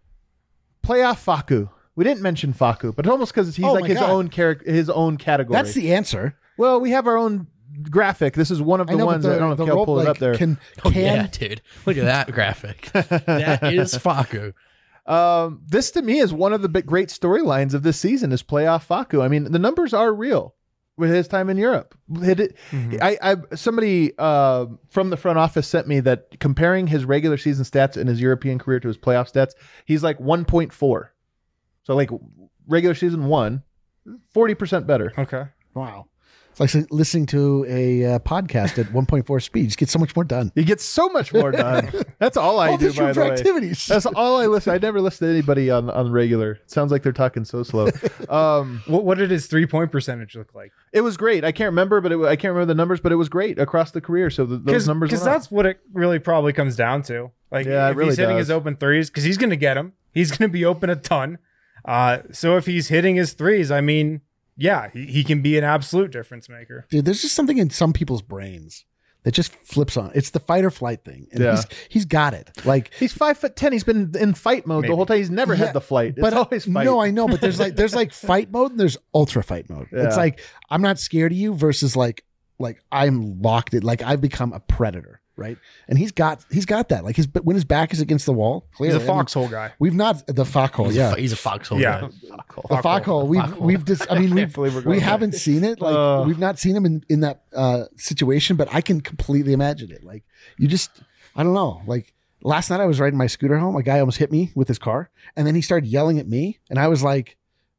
playoff Faku. We didn't mention Faku, but almost because he's Oh like my his God. own character, his own category. That's the answer. well, we have our own graphic. This is one of I the know, ones. but the, I don't know the if Kel rope, pulled it like, up there. Can, Oh can yeah, dude! Look at that graphic. That is Faku. Um, this to me is one of the big, great storylines of this season is playoff Faku. I mean, the numbers are real with his time in Europe. Hit it, I, I somebody uh, from the front office sent me that comparing his regular season stats in his European career to his playoff stats, he's like one point four. So like regular season one, forty percent better. Okay. wow. It's like listening to a uh, podcast at one point four speed. You just get so much more done. He gets so much more done. That's all I All do, these by the way. activities. That's all I listen. I never listen to anybody on on regular. It sounds like they're talking so slow. Um, What what did his three point percentage look like? it was great. I can't remember, but it, I can't remember the numbers, but it was great across the career. So the, those numbers. because went up. that's what it really probably comes down to. Like Yeah, it if really he's hitting does. his open threes, because he's going to get them. He's going to be open a ton. Uh, so if he's hitting his threes, I mean, yeah, he, he can be an absolute difference maker. Dude, there's just something in some people's brains that just flips on. It's the fight or flight thing. And Yeah. he's, he's got it. Like, He's five foot ten. He's been in fight mode the Maybe. whole time. He's never Yeah, had the flight. It's but always fight. no, I know, but there's like there's like fight mode and there's ultra fight mode. Yeah. It's like I'm not scared of you versus like like I'm locked in. Like I've become a predator, right? And he's got he's got that. Like his but when his back is against the wall, He's clearly, a I mean, foxhole guy. we've not the foxhole, He's, yeah. a, fo- he's a foxhole. Yeah. guy. The foxhole. We've Foxhole. we've just. I mean, we've believe we're we going there. haven't seen it. Like Uh. we've not seen him in in that uh, situation, but I can completely imagine it. Like you just, I don't know. Like last night, I was riding my scooter home. A guy almost hit me with his car, and then he started yelling at me, and I was like,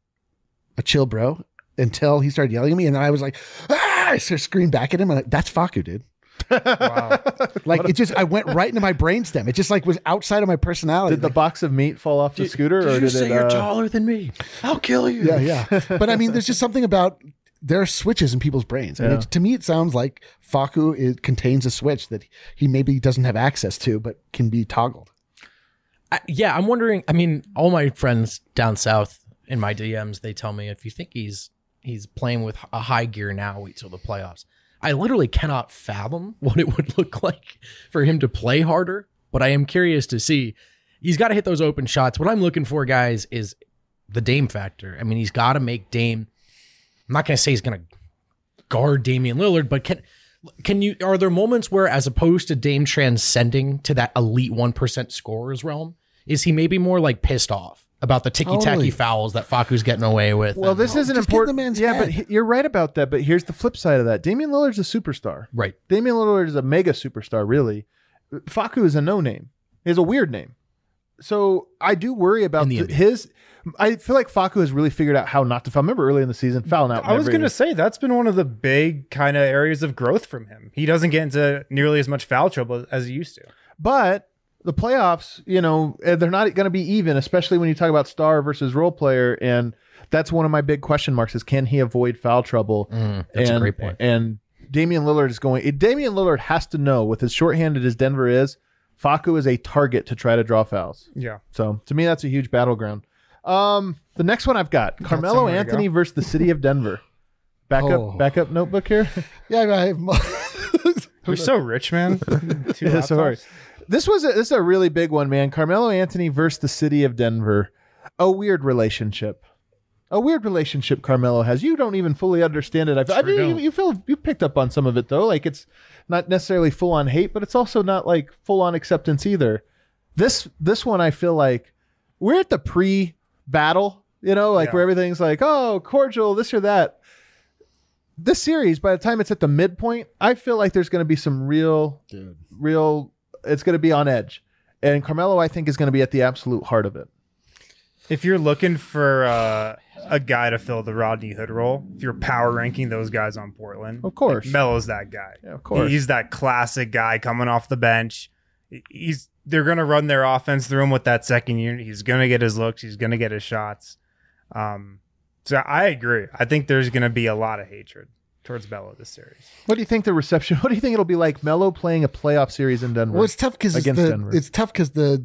"A chill, bro." Until he started yelling at me, and then I was like, "Ah!" I started screaming back at him, and like, that's Faku, dude. Wow. Like it just, I went right into my brainstem. It just like was outside of my personality. Did the Like, box of meat fall off the scooter, Did or you did say it? you're uh, taller than me? I'll kill you. yeah, yeah. But I mean, there's just something about there are switches in people's brains, and Yeah. it, to me, it sounds like Faku it contains a switch that he maybe doesn't have access to, but can be toggled. I, yeah, I'm wondering. I mean, all my friends down south in my D Ms, they tell me if you think he's he's playing with a high gear now, wait till the playoffs. I literally cannot fathom what it would look like for him to play harder, but I am curious to see. He's got to hit those open shots. What I'm looking for, guys, is the Dame factor. I mean, he's got to make Dame. I'm not going to say he's going to guard Damian Lillard, but can can you? Are there moments where, as opposed to Dame transcending to that elite one percent scorers realm, is he maybe more like pissed off about the ticky tacky Totally. fouls that Faku's getting away with? Well, and- this isn't just get important. the man's yeah, head. but he, you're right about that. But here's the flip side of that. Damian Lillard's a superstar. right. Damian Lillard is a mega superstar, really. Faku is a no name. He has a weird name. So I do worry about In the the- N B A. his. I feel like Faku has really figured out how not to foul. Remember early in the season, fouling out. I was never going to is- say that's been one of the big kind of areas of growth from him. He doesn't get into nearly as much foul trouble as he used to. But the playoffs, you know, eh, they're not going to be even, especially when you talk about star versus role player. And that's one of my big question marks: is can he avoid foul trouble? Mm, that's and, a great point. And Damian Lillard is going. Damian Lillard has to know, with as shorthanded as Denver is, Faku is a target to try to draw fouls. Yeah. So to me, that's a huge battleground. Um, the next one I've got Carmelo somewhere to Anthony go. versus the city of Denver. Back Oh. up, back up notebook here. Yeah, I have. We're so rich, man. Two Yeah, sorry. laptops. This was a, this is a really big one, man. Carmelo Anthony versus the city of Denver. A weird relationship. A weird relationship Carmelo has. You don't even fully understand it. I, I Sure you, don't. you feel you picked up on some of it though. Like it's not necessarily full on hate, but it's also not like full on acceptance either. This this one I feel like we're at the pre battle, you know, like Yeah. where everything's like, oh, cordial, this or that. this series, by the time it's at the midpoint, I feel like there's going to be some real, Dude. real. It's going to be on edge, and Carmelo, I think, is going to be at the absolute heart of it. If you're looking for uh, a guy to fill the Rodney Hood role, if you're power ranking those guys on Portland, Of course. like, Melo's that guy. Yeah, of course. He's that classic guy coming off the bench. He's they're gonna run their offense through him with that second unit. He's gonna get his looks. He's gonna get his shots. Um, so I agree. I think there's gonna be a lot of hatred towards Melo this series. What do you think the reception? What do you think it'll be like? Melo playing a playoff series in Denver. Well, it's tough because it's, Against the- Denver. it's tough because the,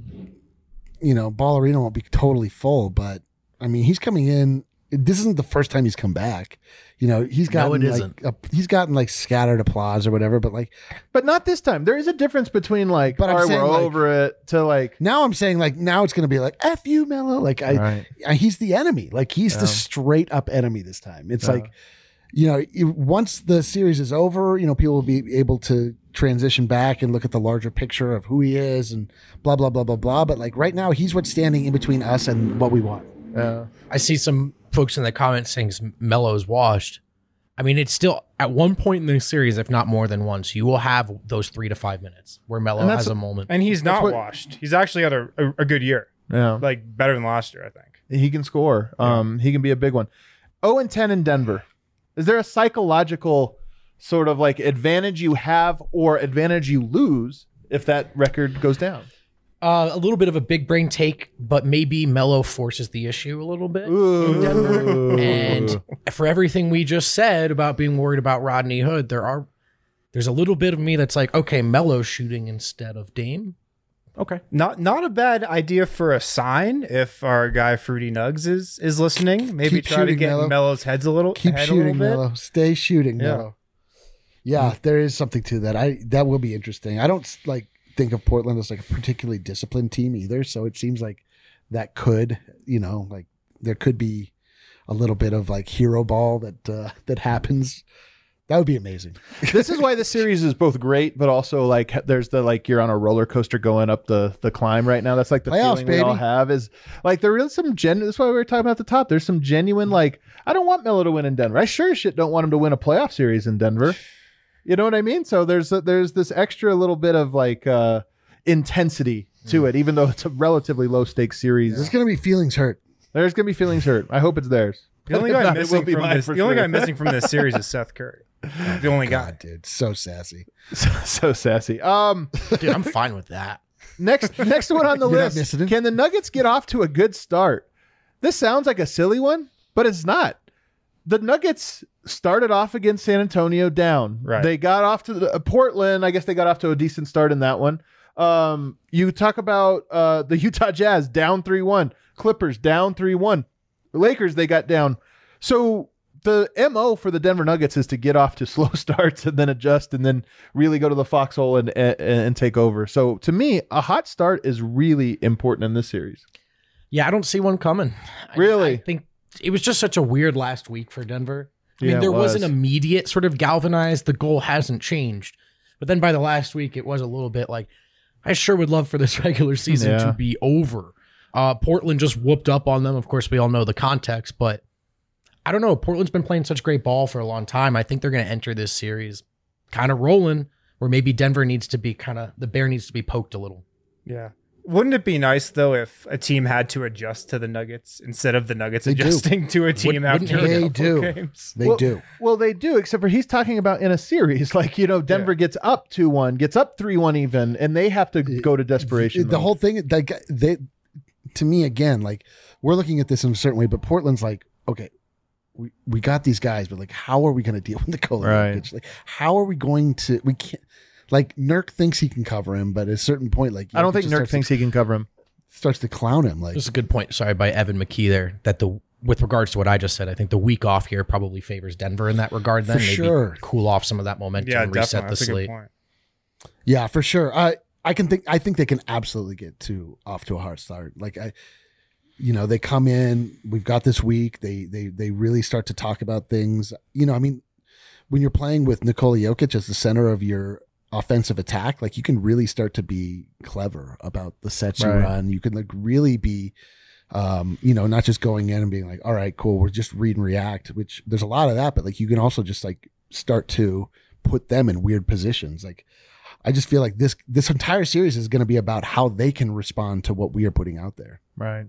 you know, Ball Arena won't be totally full, but I mean, he's coming in. This isn't the first time he's come back. You know, he's No, gotten it like isn't. a, he's gotten like scattered applause or whatever. But like But not this time. There is a difference between like, But I'm all right, saying, we're like- over it, to like, now, I'm saying like now it's going to be like F you, Melo. Like I, right. I he's the enemy. Like he's Yeah. the straight up enemy this time. It's Yeah. like, you know, you- once the series is over, you know, people will be able to transition back and look at the larger picture of who he is and blah blah blah blah blah. But like right now, he's what's standing in between us and what we want. Yeah. I see some folks in the comments saying Melo's washed. I mean, it's still at one point in the series, if not more than once, you will have those three to five minutes where Melo And that's- has a moment. And he's That's not what- washed. He's actually had a, a, a good year, Yeah. like better than last year, I think. He can score. Um, he can be a big one. oh and ten in Denver. Is there a psychological sort of like advantage you have or advantage you lose if that record goes down? Uh, a little bit of a big brain take, but maybe Melo forces the issue a little bit in Denver. And for everything we just said about being worried about Rodney Hood, there are there's a little bit of me that's like, okay, Melo's shooting instead of Dame. Okay. Not not a bad idea for a sign if our guy Fruity Nugs is is listening. Maybe Keep try to shooting, get Melo. Melo's heads a little Keep head a little shooting, bit. Melo. Stay shooting, Yeah. Melo. Yeah, there is something to that. I that will be interesting. I don't like think of Portland as like a particularly disciplined team either. So it seems like that could, you know, like there could be a little bit of like hero ball that uh, that happens. That would be amazing. This is why the series is both great, but also like there's the like you're on a roller coaster going up the the climb right now. That's like the Playoffs, feeling we all baby. have is like there is some gen. That's why we were talking about at the top. There's some genuine like I don't want Melo to win in Denver. I sure as shit don't want him to win a playoff series in Denver. You know what I mean? So there's a, there's this extra little bit of like uh, intensity to it, even though it's a relatively low stakes series. There's going to be feelings hurt. There's gonna be feelings hurt. I hope it's theirs. The only If guy not, it missing will be from mine this, for the only sure. guy missing from this series is Seth Curry. The only guy. God, dude, so sassy. so, so sassy. Um. Dude, I'm fine with that. Next, next one on the You're not list. missing it? Can the Nuggets get off to a good start? This sounds like a silly one, but it's not. The Nuggets started off against San Antonio down. Right. They got off to the, uh, Portland. I guess they got off to a decent start in that one. Um, you talk about uh, the Utah Jazz down three one, Clippers down three one, Lakers they got down. So the M O for the Denver Nuggets is to get off to slow starts and then adjust and then really go to the foxhole and, and and take over. So to me, a hot start is really important in this series. Yeah, I don't see one coming. I- Really? I, think it was just such a weird last week for Denver. I Yeah, mean, it there was. was. an immediate sort of galvanized. The goal hasn't changed. But then by the last week, it was a little bit like, I sure would love for this regular season Yeah. to be over. Uh, Portland just whooped up on them. Of course, we all know the context, but I don't know. Portland's been playing such great ball for a long time. I think they're going to enter this series kind of rolling, where maybe Denver needs to be kind of, the bear needs to be poked a little. Yeah. Wouldn't it be nice though if a team had to adjust to the Nuggets instead of the Nuggets They do. adjusting to a team Wouldn't after hate a it. couple They do. games? They well, do. Well, they do, except for he's talking about in a series. Like, you know, Denver gets up two one, gets up three one even, and they have to go to desperation. The mode. whole thing, like they, to me again, like we're looking at this in a certain way, but Portland's like, okay, we, we got these guys, but like, how are we going to deal with Nikola Right. Jokic? Like, how are we going to? We can't. Like Nurk thinks he can cover him, but at a certain point, like I don't Jokic think just Nurk starts thinks to, he can cover him. starts to clown him. Like This is a good point. Sorry, by Evan McKee there. That the with regards to what I just said, I think the week off here probably favors Denver in that regard. Then For maybe sure. cool off some of that momentum Yeah, and reset definitely. the That's a good slate. point. yeah, for sure. I I can think. I think they can absolutely get to off to a hard start. Like I, you know, they come in. We've got this week. They they they really start to talk about things. You know, I mean, when you're playing with Nikola Jokic as the center of your offensive attack, like you can really start to be clever about the sets you Right. run. You can like really be Um, you know, not just going in and being like, all right, cool, we're just read and react, which there's a lot of that, but like you can also just like start to put them in weird positions. Like I just feel like this this entire series is going to be about how they can respond to what we are putting out there. Right.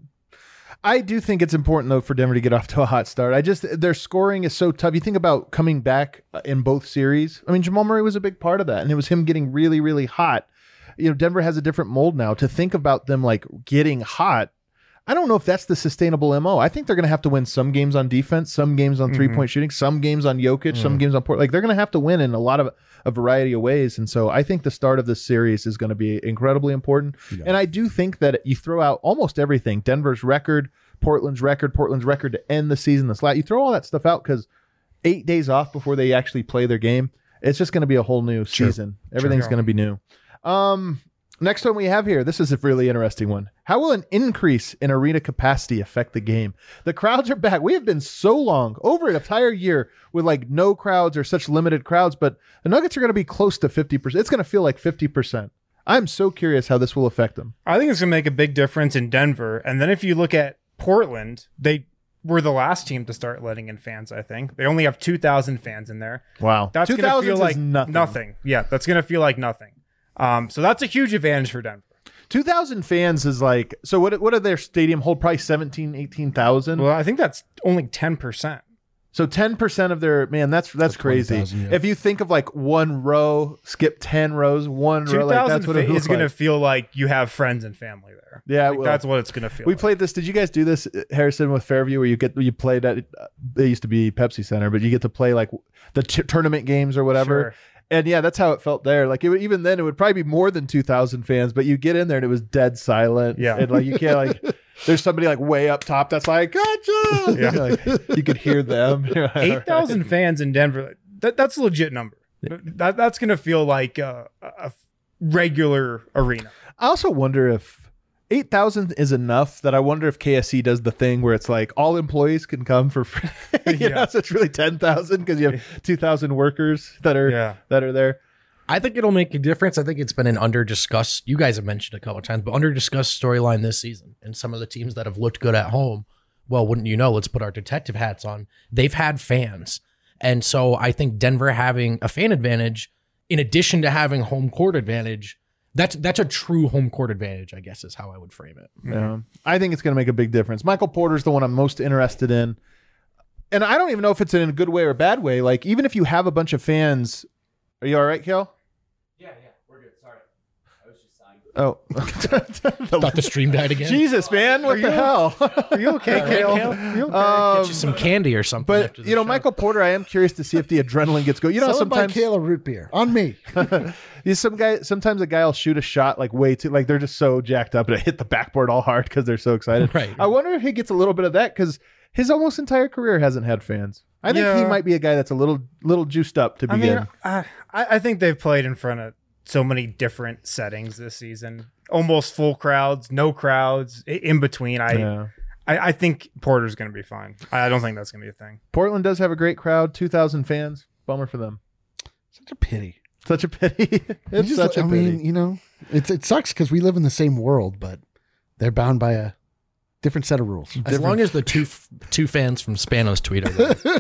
I do think it's important though for Denver to get off to a hot start. I just their scoring is so tough. You think about coming back in both series. I mean, Jamal Murray was a big part of that, and it was him getting really, really hot. You know, Denver has a different mold now. To think about them like getting hot, I don't know if that's the sustainable M O. I think they're going to have to win some games on defense, some games on three point shooting, some games on Jokic, mm. some games on Port. Like they're going to have to win in a lot of a variety of ways. And so I think the start of this series is going to be incredibly important. Yeah. And I do think that you throw out almost everything, Denver's record, Portland's record, Portland's record to end the season, the slot. You throw all that stuff out because eight days off before they actually play their game, it's just going to be a whole new sure. season. Everything's sure. going to be new. Um, next one we have here, this is a really interesting one. How will an increase in arena capacity affect the game? The crowds are back. We have been so long, over an entire year, with like no crowds or such limited crowds, but the Nuggets are going to be close to fifty percent. It's going to feel like fifty percent. I'm so curious how this will affect them. I think it's going to make a big difference in Denver. And then if you look at Portland, they were the last team to start letting in fans, I think. They only have two thousand fans in there. Wow. That's going to feel like nothing. nothing. Yeah, that's going to feel like nothing. Um, so that's a huge advantage for Denver. two thousand fans is like, so what What did their stadium hold? Probably seventeen, eighteen thousand? Well, I think that's only ten percent. So ten percent of their, man, that's that's So crazy. yeah. If you think of like one row, skip ten rows, one row, like that's what it is looks going to like. feel like you have friends and family there. Yeah, Like, well, that's what it's going to feel We like. played this. Did you guys do this, Harrison, with Fairview, where you get you played at? Uh, they used to be Pepsi Center, but you get to play like the t- tournament games or whatever. Sure. And yeah, that's how it felt there. Like it would, even then, it would probably be more than two thousand fans, but you get in there and it was dead silent. Yeah. And like you can't like. There's somebody like way up top that's like, gotcha. Yeah. Like, you could hear them. eight thousand fans in Denver, that, that's a legit number. That, that's going to feel like a, a regular arena. I also wonder if eight thousand is enough that I wonder if K S C does the thing where it's like all employees can come for free. you Yeah. know, so it's really ten thousand because you have two thousand workers that are Yeah. that are there. I think it'll make a difference. I think it's been an under discussed, you guys have mentioned a couple of times, but under discussed storyline this season. And some of the teams that have looked good at home, well, wouldn't you know, let's put our detective hats on. They've had fans. And so I think Denver having a fan advantage, in addition to having home court advantage, that's that's a true home court advantage, I guess is how I would frame it. Yeah. I think it's going to make a big difference. Michael Porter's the one I'm most interested in. And I don't even know if it's in a good way or a bad way. Like, even if you have a bunch of fans, are you all right, Kel? Yeah, yeah, we're good. Sorry. I was just sighing. Oh. Thought the stream died again. Jesus, man. What the hell? Are you okay, Kale? Are you okay? Um, Get you some candy or something. but, after the you know, show. Michael Porter, I am curious to see if the adrenaline gets going. You know, Someone sometimes... buy Kayla root beer on me. Yeah, some guy, sometimes a guy will shoot a shot like way too, like they're just so jacked up and it hit the backboard all hard because they're so excited. Right. I wonder if he gets a little bit of that because his almost entire career hasn't had fans. I think he Yeah. might be a guy that's a little, little juiced up to I begin. mean, I, I I think they've played in front of so many different settings this season. Almost full crowds, no crowds, i- in between. I yeah. I, I think Porter's going to be fine. I don't think that's going to be a thing. Portland does have a great crowd, two thousand fans. Bummer for them. Such a pity. Such a pity. You it's just- such a I pity. mean, you know, it's it sucks because we live in the same world, but they're bound by a different set of rules. As long as the two f- two fans from Spanos tweet are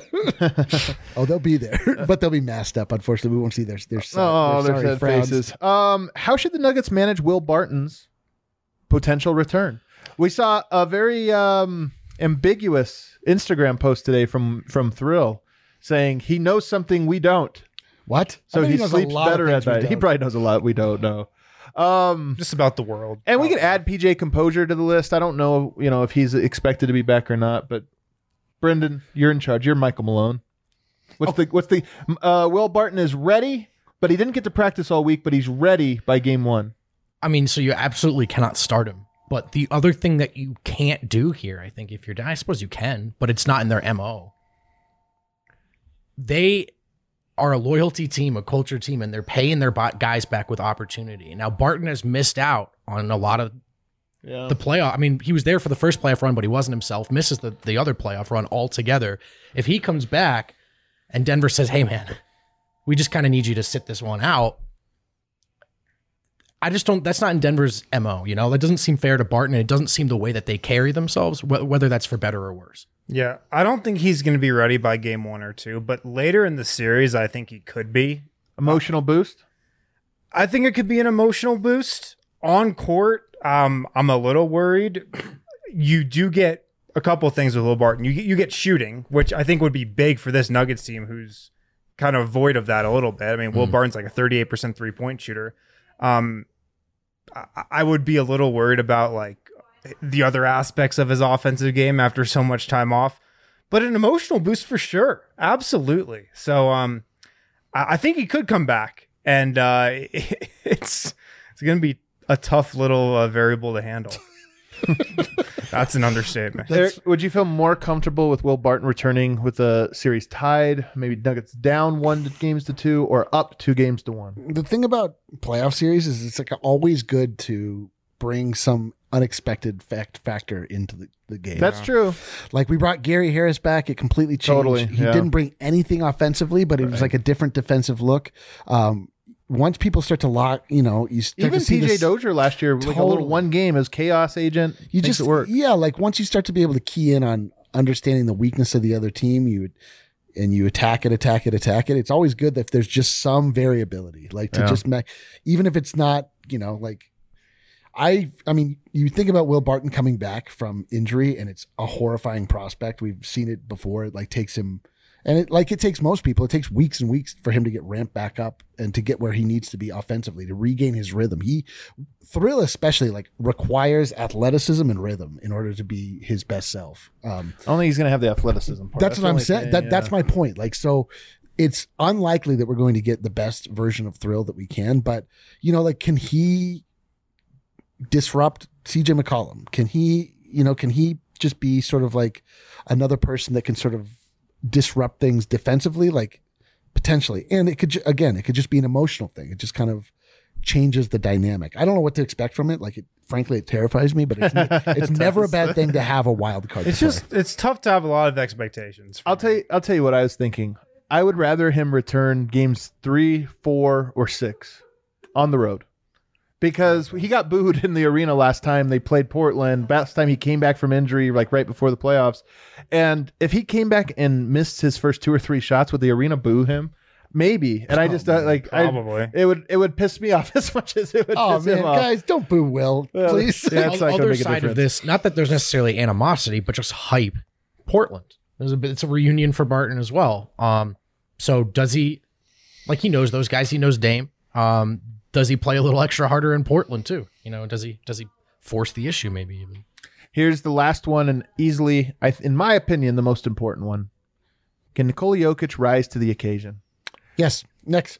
there. Oh, they'll be there, but they'll be masked up. Unfortunately, we won't see their their, oh, their their sorry sad frowns. faces. Um, how should the Nuggets manage Will Barton's potential return? We saw a very um, ambiguous Instagram post today from from Thrill saying he knows something we don't. What? So I bet he knows a sleeps lot of better at things we night. He don't. probably knows a lot we don't know. Um, Just about the world. and we could add P J Composure to the list. I don't know, you know, if he's expected to be back or not. But Brendan, you're in charge. You're Michael Malone. What's the what's the? Uh, Will Barton is ready, but he didn't get to practice all week. But he's ready by game one. I mean, so you absolutely cannot start him. But the other thing that you can't do here, I think, if you're, I suppose you can, but it's not in their M O. They are a loyalty team, a culture team, and they're paying their bo- guys back with opportunity. Now, Barton has missed out on a lot of Yeah. the playoff. I mean, he was there for the first playoff run, but he wasn't himself. Misses the, the other playoff run altogether. If he comes back and Denver says, hey, man, we just kind of need you to sit this one out, I just don't. That's not in Denver's M O. You know, that doesn't seem fair to Barton, and it doesn't seem the way that they carry themselves, wh- whether that's for better or worse. Yeah, I don't think he's going to be ready by game one or two, but later in the series, I think he could be. Emotional boost. I think it could be an emotional boost on court. Um, I'm a little worried. You do get a couple things with Will Barton. You get, you get shooting, which I think would be big for this Nuggets team, who's kind of void of that a little bit. I mean, Will Mm. Barton's like a thirty-eight percent three point shooter. Um, I, I would be a little worried about like the other aspects of his offensive game after so much time off, but an emotional boost for sure. Absolutely. So, um, I, I think he could come back, and uh, it, it's it's going to be a tough little uh, variable to handle. That's an understatement. Eric, would you feel more comfortable with Will Barton returning with the series tied, maybe Nuggets down one games to two, or up two games to one? The thing about playoff series is it's like always good to bring some unexpected fact factor into the, the game. That's true. Like we brought Gary Harris back, it completely changed. Totally, He yeah. didn't bring anything offensively, but it was like a different defensive look. Um, once people start to lock, you know, you start Even to see P J this, Dozier last year, like a little Totally. one game as chaos agent. you makes just it work. yeah, like once you start to be able to key in on understanding the weakness of the other team, you would and you attack it, attack it, attack it. It's always good if there's just some variability, like to Yeah. just make, even if it's not, you know, like I, I mean, you think about Will Barton coming back from injury, and it's a horrifying prospect. We've seen it before. It like takes him, and it like it takes most people, it takes weeks and weeks for him to get ramped back up and to get where he needs to be offensively to regain his rhythm. He, Thrill especially, like requires athleticism and rhythm in order to be his best self. Um, I don't think he's going to have the athleticism part. that's, what the I'm only saying. thing, That yeah. that's my point. Like, so it's unlikely that we're going to get the best version of Thrill that we can, but you know, like, can he disrupt C J McCollum? Can he, you know, can he just be sort of like another person that can sort of disrupt things defensively? Like potentially. And it could, ju- again, it could just be an emotional thing. It just kind of changes the dynamic. I don't know what to expect from it. Like, it, frankly, it terrifies me, but it's, it's never a bad thing to have a wild card. It's to play. just it's tough to have a lot of expectations. I'll tell you. I'll tell you what I was thinking. I would rather him return games three, four, or six on the road, because he got booed in the arena last time they played Portland. Last time he came back from injury, like right before the playoffs, and if he came back and missed his first two or three shots, would the arena boo him? Maybe. And I just uh, like I, Probably. it would it would piss me off as much as it would Oh piss man, him off. guys, don't boo Will, Well, please. yeah, it's the not gonna other make a side of difference. this, not that there's necessarily animosity, but just hype. Portland. There's a bit, it's a reunion for Barton as well. Um, so does he, like he knows those guys, he knows Dame. Um, does he play a little extra harder in Portland too? You know, does he does he force the issue maybe even? Here's the last one, and easily, I, in my opinion, the most important one. Can Nikola Jokic rise to the occasion? Yes. Next.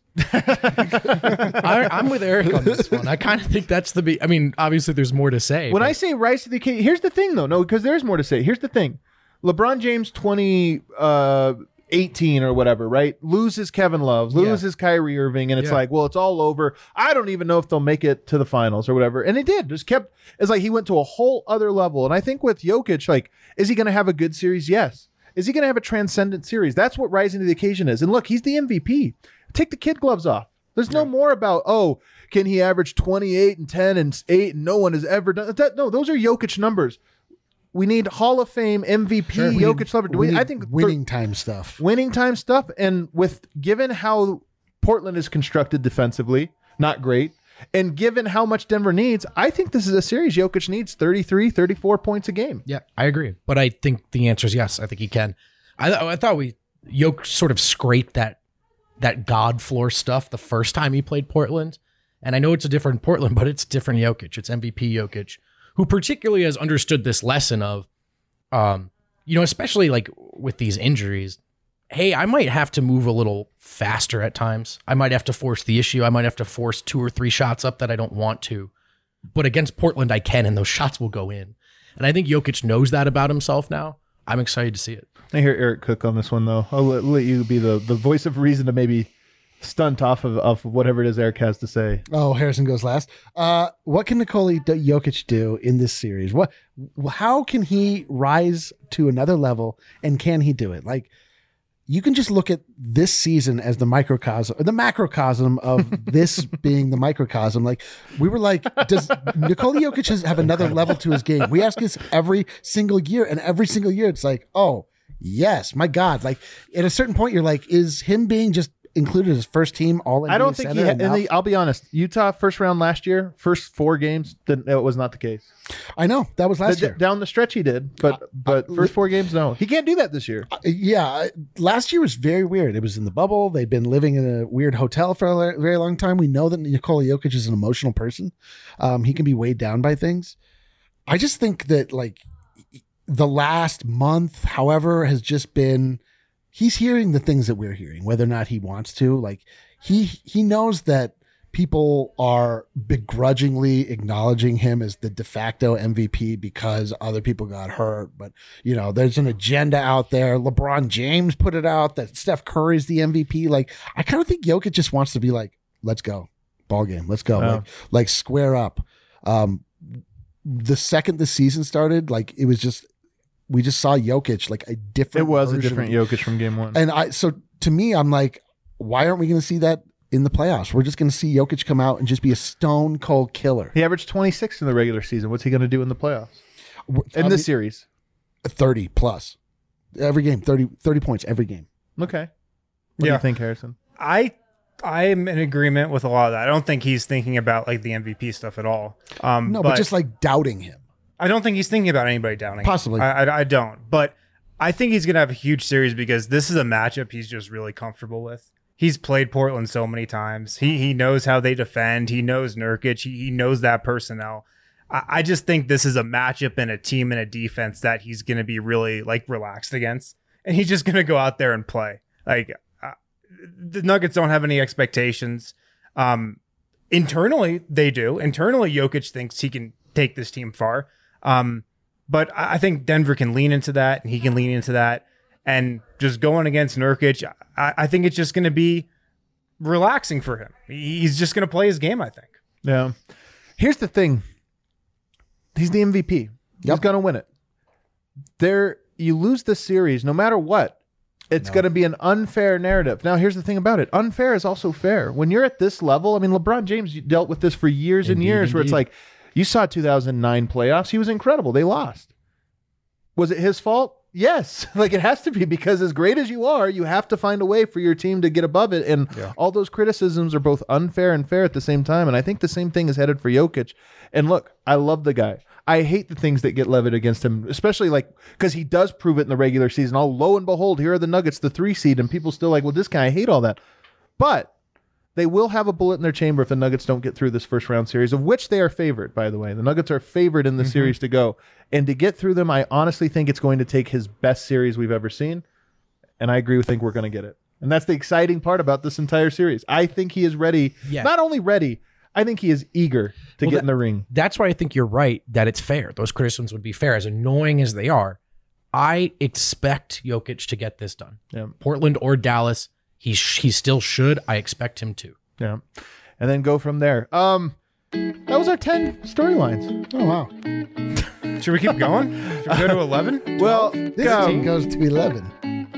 I, I'm with Eric on this one. I kind of think that's the be. I mean, obviously there's more to say. When but- I say rise to the occasion, here's the thing, though. No, because there's more to say. Here's the thing. LeBron James twenty eighteen or whatever, right? Loses Kevin Love, loses Kyrie Irving, and it's Yeah. like, well, it's all over. I don't even know if they'll make it to the finals or whatever. And they did. Just kept, it's like he went to a whole other level. And I think with Jokic, like, is he going to have a good series? Yes. Is he going to have a transcendent series? That's what rising to the occasion is. And look, he's the M V P. Take the kid gloves off. There's no more about, oh, can he average twenty-eight and ten and eight and no one has ever done that? No, those are Jokic numbers. We need Hall of Fame M V P Sure, we Jokic need- level. we need I think thir- winning time stuff. winning time stuff, and with given how Portland is constructed defensively, not great, and given how much Denver needs, I think this is a series Jokic needs thirty-three, thirty-four points a game. Yeah, I agree. But I think the answer is yes. I think he can. I, th- I thought we Yoke sort of scraped that that God floor stuff the first time he played Portland. And I know it's a different Portland, but it's different Jokic. It's M V P Jokic, who particularly has understood this lesson of, um, you know, especially like with these injuries, hey, I might have to move a little faster at times. I might have to force the issue. I might have to force two or three shots up that I don't want to. But against Portland, I can, and those shots will go in. And I think Jokic knows that about himself now. I'm excited to see it. I hear Eric Cook on this one, though. I'll let, let you be the, the voice of reason to maybe stunt off of, of whatever it is Eric has to say. Oh, Harrison goes last. Uh, what can Nikola Jokic do in this series? What, how can he rise to another level, and can he do it? Like, you can just look at this season as the microcosm, or the macrocosm of this being the microcosm. Like we were like, does Nikola Jokic have another level to his game? We ask this every single year, and every single year it's like, oh yes, my God. Like at a certain point, you're like, is him being just included as first team all? I don't think he. Had, and the, I'll be honest, Utah first round last year, first four games, didn't, it was not the case. I know that was last the, year. Down the stretch, he did, but uh, but uh, first four games, no, he can't do that this year. Uh, yeah, last year was very weird. It was in the bubble. They'd been living in a weird hotel for a very long time. We know that Nikola Jokic is an emotional person. Um, he can be weighed down by things. I just think that like the last month, however, has just been. He's hearing the things that we're hearing, whether or not he wants to. Like he he knows that people are begrudgingly acknowledging him as the de facto M V P because other people got hurt. But you know, there's an agenda out there. LeBron James put it out that Steph Curry's the M V P. Like I kind of think Jokic just wants to be like, let's go, ball game, let's go, Wow. like like square up. Um, the second the season started, like it was just. We just saw Jokic like a different. It was a version different of, Jokic from game one. and I. So to me, I'm like, why aren't we going to see that in the playoffs? We're just going to see Jokic come out and just be a stone cold killer. He averaged twenty-six in the regular season. What's he going to do in the playoffs? In I mean, this series? thirty plus every game, thirty, thirty points every game. Okay. What do Yeah. you think, Harrison? I I'm in agreement with a lot of that. I don't think he's thinking about like the M V P stuff at all. Um, No, but, just like doubting him. I don't think he's thinking about anybody downing him. Possibly. I, I, I don't. But I think he's going to have a huge series because this is a matchup he's just really comfortable with. He's played Portland so many times. He he knows how they defend. He knows Nurkic. He, he knows that personnel. I, I just think this is a matchup and a team and a defense that he's going to be really like relaxed against. And he's just going to go out there and play. Like uh, the Nuggets don't have any expectations. Um, internally, they do. Internally, Jokic thinks he can take this team far. Um, but I think Denver can lean into that, and he can lean into that, and just going against Nurkic, I, I think it's just going to be relaxing for him. He's just going to play his game, I think. Yeah. Here's the thing. He's the M V P. He's Yep. going to win it. There, you lose this series, no matter what, it's No. going to be an unfair narrative. Now, here's the thing about it. Unfair is also fair. When you're at this level, I mean, LeBron James dealt with this for years and Indeed, years, where it's indeed. like, you saw two thousand nine playoffs. He was incredible. They lost. Was it his fault? Yes. Like it has to be, because as great as you are, you have to find a way for your team to get above it. And Yeah. all those criticisms are both unfair and fair at the same time. And I think the same thing is headed for Jokic. And look, I love the guy. I hate the things that get levied against him, especially like because he does prove it in the regular season. Oh, lo and behold, here are the Nuggets, the three seed, and people still like, well, this guy, I hate all that. But they will have a bullet in their chamber if the Nuggets don't get through this first round series, of which they are favored, by the way. The Nuggets are favored in the Mm-hmm. series to go. And to get through them, I honestly think it's going to take his best series we've ever seen. And I agree with think we're going to get it. And that's the exciting part about this entire series. I think he is ready. Yeah. Not only ready, I think he is eager to Well, get that- in the ring. That's why I think you're right that it's fair. Those criticisms would be fair, as annoying as they are. I expect Jokic to get this done. Yeah. Portland or Dallas, he sh- he still should. I expect him to. Yeah. And then go from there. Um, that was our ten storylines. Oh wow! Should we keep going? Should we go to eleven? Well, This go. team goes to eleven.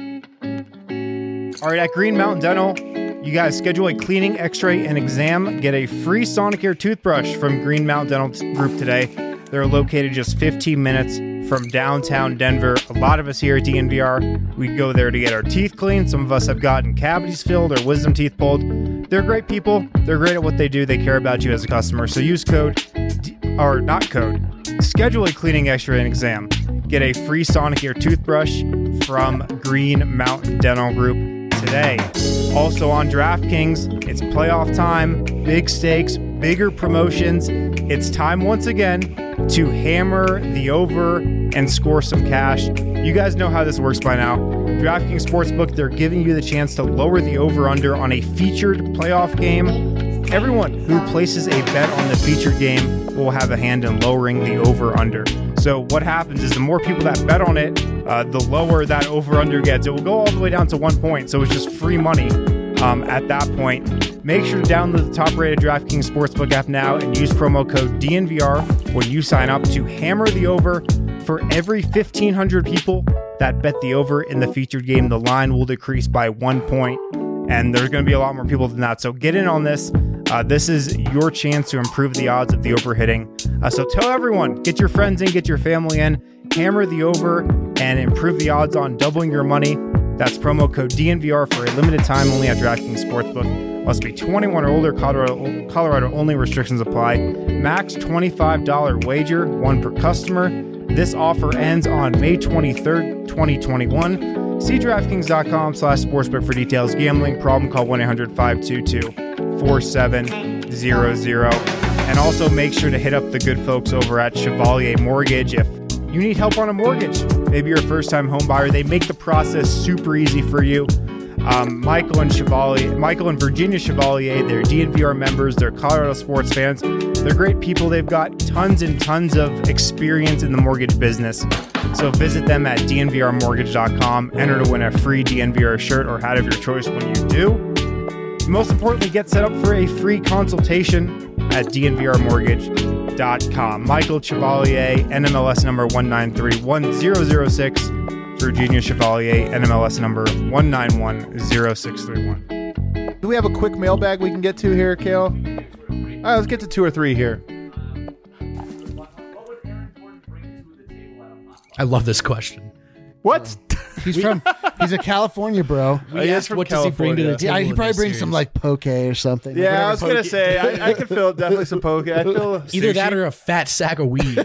All right, at Green Mountain Dental, you guys schedule a cleaning, x-ray, and exam. Get a free Sonicare toothbrush from Green Mountain Dental t- Group today. They're located just fifteen minutes from downtown Denver. A lot of us here at D N V R, we go there to get our teeth cleaned. Some of us have gotten cavities filled or wisdom teeth pulled. They're great people. They're great at what they do. They care about you as a customer. So use code, D- or not code, schedule a cleaning, x-ray, and exam. Get a free Sonicare toothbrush from Green Mountain Dental Group today. Also on DraftKings, it's playoff time, big stakes, bigger promotions. It's time once again to hammer the over and score some cash. You guys know how this works by now. DraftKings Sportsbook, they're giving you the chance to lower the over-under on a featured playoff game. Everyone who places a bet on the featured game will have a hand in lowering the over-under. So what happens is the more people that bet on it, uh, the lower that over-under gets. It will go all the way down to one point, so it's just free money um, at that point. Make sure to download the top-rated DraftKings Sportsbook app now and use promo code D N V R when you sign up to hammer the over. For every fifteen hundred people that bet the over in the featured game, the line will decrease by one point, and there's going to be a lot more people than that. So get in on this. Uh, this is your chance to improve the odds of the over hitting. Uh, so tell everyone, get your friends in, get your family in, hammer the over, and improve the odds on doubling your money. That's promo code D N V R for a limited time only at DraftKings Sportsbook. Must be twenty-one or older. Colorado, Colorado only. Restrictions apply. Max twenty-five dollars wager, one per customer. This offer ends on May twenty-third, twenty twenty-one. See DraftKings.com slash sportsbook for details. Gambling problem, call one eight hundred five two two four seven zero zero. And also make sure to hit up the good folks over at Chevalier Mortgage if you need help on a mortgage. Maybe you're a first-time home buyer. They make the process super easy for you. Um, Michael and Chevalier, Michael and Virginia Chevalier, they're D N V R members. They're Colorado sports fans. They're great people. They've got tons and tons of experience in the mortgage business. So visit them at D N V R mortgage dot com. Enter to win a free D N V R shirt or hat of your choice when you do. Most importantly, get set up for a free consultation at D N V R mortgage dot com. Michael Chevalier, N M L S number one nine three one zero zero six. Virginia Chevalier, N M L S number one nine one zero six three one. Do we have a quick mailbag we can get to here, Kale? All right, let's get to two or three here. What would Aaron Gordon bring to the table at a pot? I love this question. What? He's from. He's a California bro. Oh, he is asked, from what does he bring to the California. table? Yeah, he in probably this brings some series? like poke or something. Yeah, I was Whatever gonna poke- say I, I could feel definitely some poke. I feel Either sushi. that or a fat sack of weed.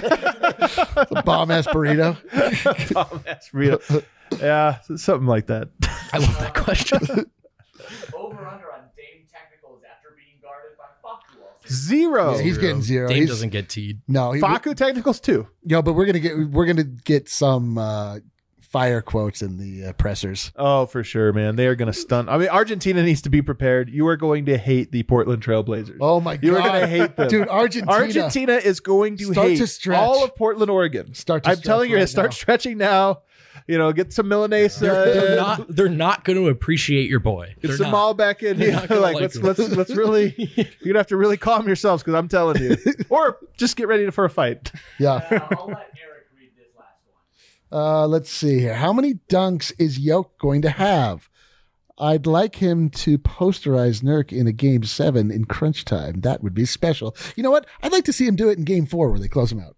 a bomb ass burrito. Bomb-ass burrito. Yeah, something like that. I love that question. Over under on Dame technicals after being guarded by Faku all season. Zero. Yeah, he's getting zero. Dame He's- doesn't get teed. No, he, Faku technicals too. yo, but we're gonna get we're gonna get some uh, fire quotes in the uh, pressers. Oh, for sure, man. They are going to stun. I mean, Argentina needs to be prepared. You are going to hate the Portland Trailblazers. Oh my You are god, going to hate them. dude! Argentina, Argentina is going to Start hate to stretch. all of Portland, Oregon. Start to I'm stretch telling you, right start now. stretching now. You know, get some Milanese. They're, uh, they're not. They're not going to appreciate your boy. Get They're some not. all back in. They're You not know, gonna like like let's him. let's let's really. You're gonna have to really calm yourselves because I'm telling you, or just get ready for a fight. Yeah. Uh, I'll let Eric read this last one. Uh, let's see here. How many dunks is Yoke going to have? I'd like him to posterize Nurk in a game seven in crunch time. That would be special. You know what? I'd like to see him do it in game four where they close him out.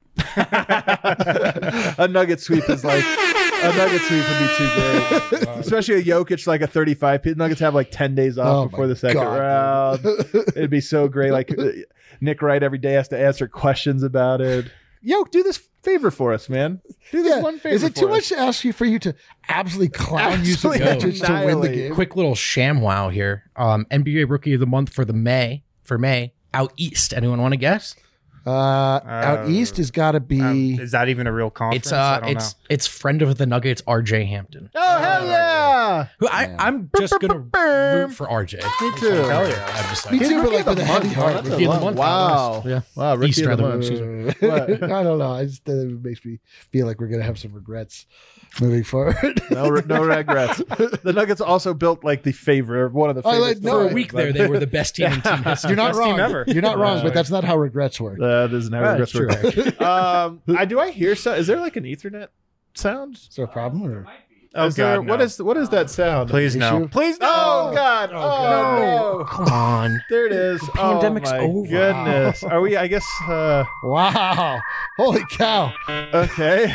A nugget sweep is like a nugget sweep would be too great, especially a Jokic like a thirty-five. Nuggets have like ten days off Oh before my the second God, round. It'd be so great. Like uh, Nick Wright every day has to answer questions about it. Yoke, do this favor for us, man. Do this Yeah. one favor. Is it for too us. much to ask you for you to absolutely clown use of Absolutely Jokic to win the annihilate. game? Quick little ShamWow here. Um, N B A Rookie of the Month for the May for May out east. Anyone want to guess? Uh, out east has got to be. Um, is that even a real conference? It's I uh, don't it's know. it's friend of the Nuggets, R J Hampton. Oh hell yeah! Who I I'm just gonna root for R J. Me too. Hell yeah! I'm just Me like too, but Rookie like of with the a heavy month, heart. huh? That's Rookie a of the lot. month. Wow. Yeah. Wow. Rookie East of the rather, month. excuse me. What? I don't know. I just uh, it makes me feel like we're gonna have some regrets moving forward. No, re- no regrets. The Nuggets also built like the favorite, one of the I favorites. like- no, For to a win, week but- there, they were the best team in team history. You're not Best wrong. team ever. You're not wrong, Uh, but that's not how regrets work. That isn't how Ah, regrets true, work. um, I do. I hear so. Is there like an Ethernet sound? Is there a problem? Or? Oh Is there- God, What no. is what is that sound? Please no. Issue? Please no. Oh God! Oh, no! Come on. There it is. pandemic's oh my over. goodness. Are we? I guess. Uh, Wow! Holy cow! okay.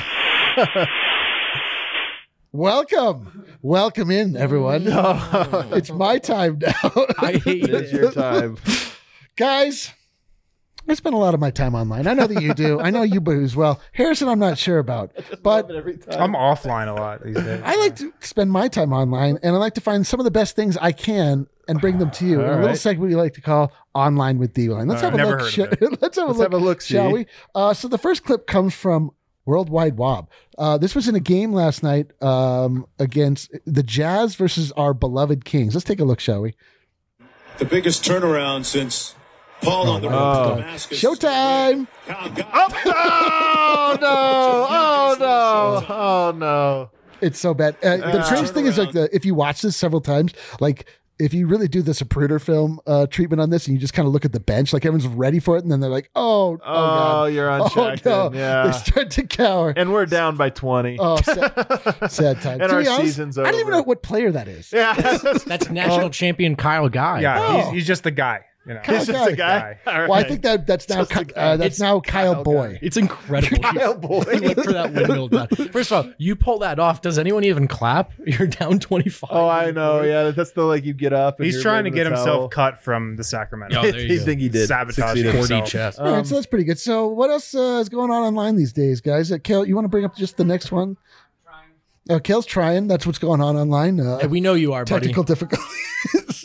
Welcome, welcome in, everyone. It's my time now, I hate It's it. your time. guys. I spend a lot of my time online. I know that you do. I know you do as well. Harrison, I'm not sure about, but Every time. I'm offline a lot these days. I like to spend my time online, and I like to find some of the best things I can and bring them to you in a All little right. segment we like to call "Online with D-Line." Let's All have a right. look. Never heard of sh- Let's have a Let's look. have a look, shall see. we? Uh, so the first clip comes from Worldwide Wob. Uh, this was in a game last night um, against the Jazz versus our beloved Kings. Let's take a look, shall we? The biggest turnaround since Paul on the road wow. to Damascus. Showtime! Kyle got- Oh no! Oh no! Oh no! It's so bad. Uh, the Uh, strange thing is, like, the if you watch this several times, like if you really do the Zapruder film uh, treatment on this, and you just kind of look at the bench, like everyone's ready for it, and then they're like, "Oh, oh, Oh, God. you're oh unchecked. no!" in, Yeah. They start to cower. and we're down by twenty. Oh, sad, sad time. And To our be honest, season's I don't even over. know what player that is. yeah. That's national champion Kyle Guy. Yeah, Oh. he's, he's just the guy. You know, Kyle He's just Guy. a guy. All Well, I right. think that that's now Just a Ky- guy. uh, that's It's now Kyle, Kyle Boy. Guy. It's incredible. Kyle Boy. Look for that windmill down. First of all, you pull that off. Does anyone even clap? You're down twenty-five. Oh, I know. Yeah, that's the like you get up. And he's you're trying to waving get the himself towel. cut from the Sacramento. Oh, there you you go. think he did Sabotaging succeed himself. himself. forty chest. All right, Um, so that's pretty good. So, what else uh, is going on online these days, guys? Uh, Kale, you want to bring up just the next one? Uh, Kale's trying. That's what's going on online. Uh, Yeah, we know you are, buddy. technical difficulties.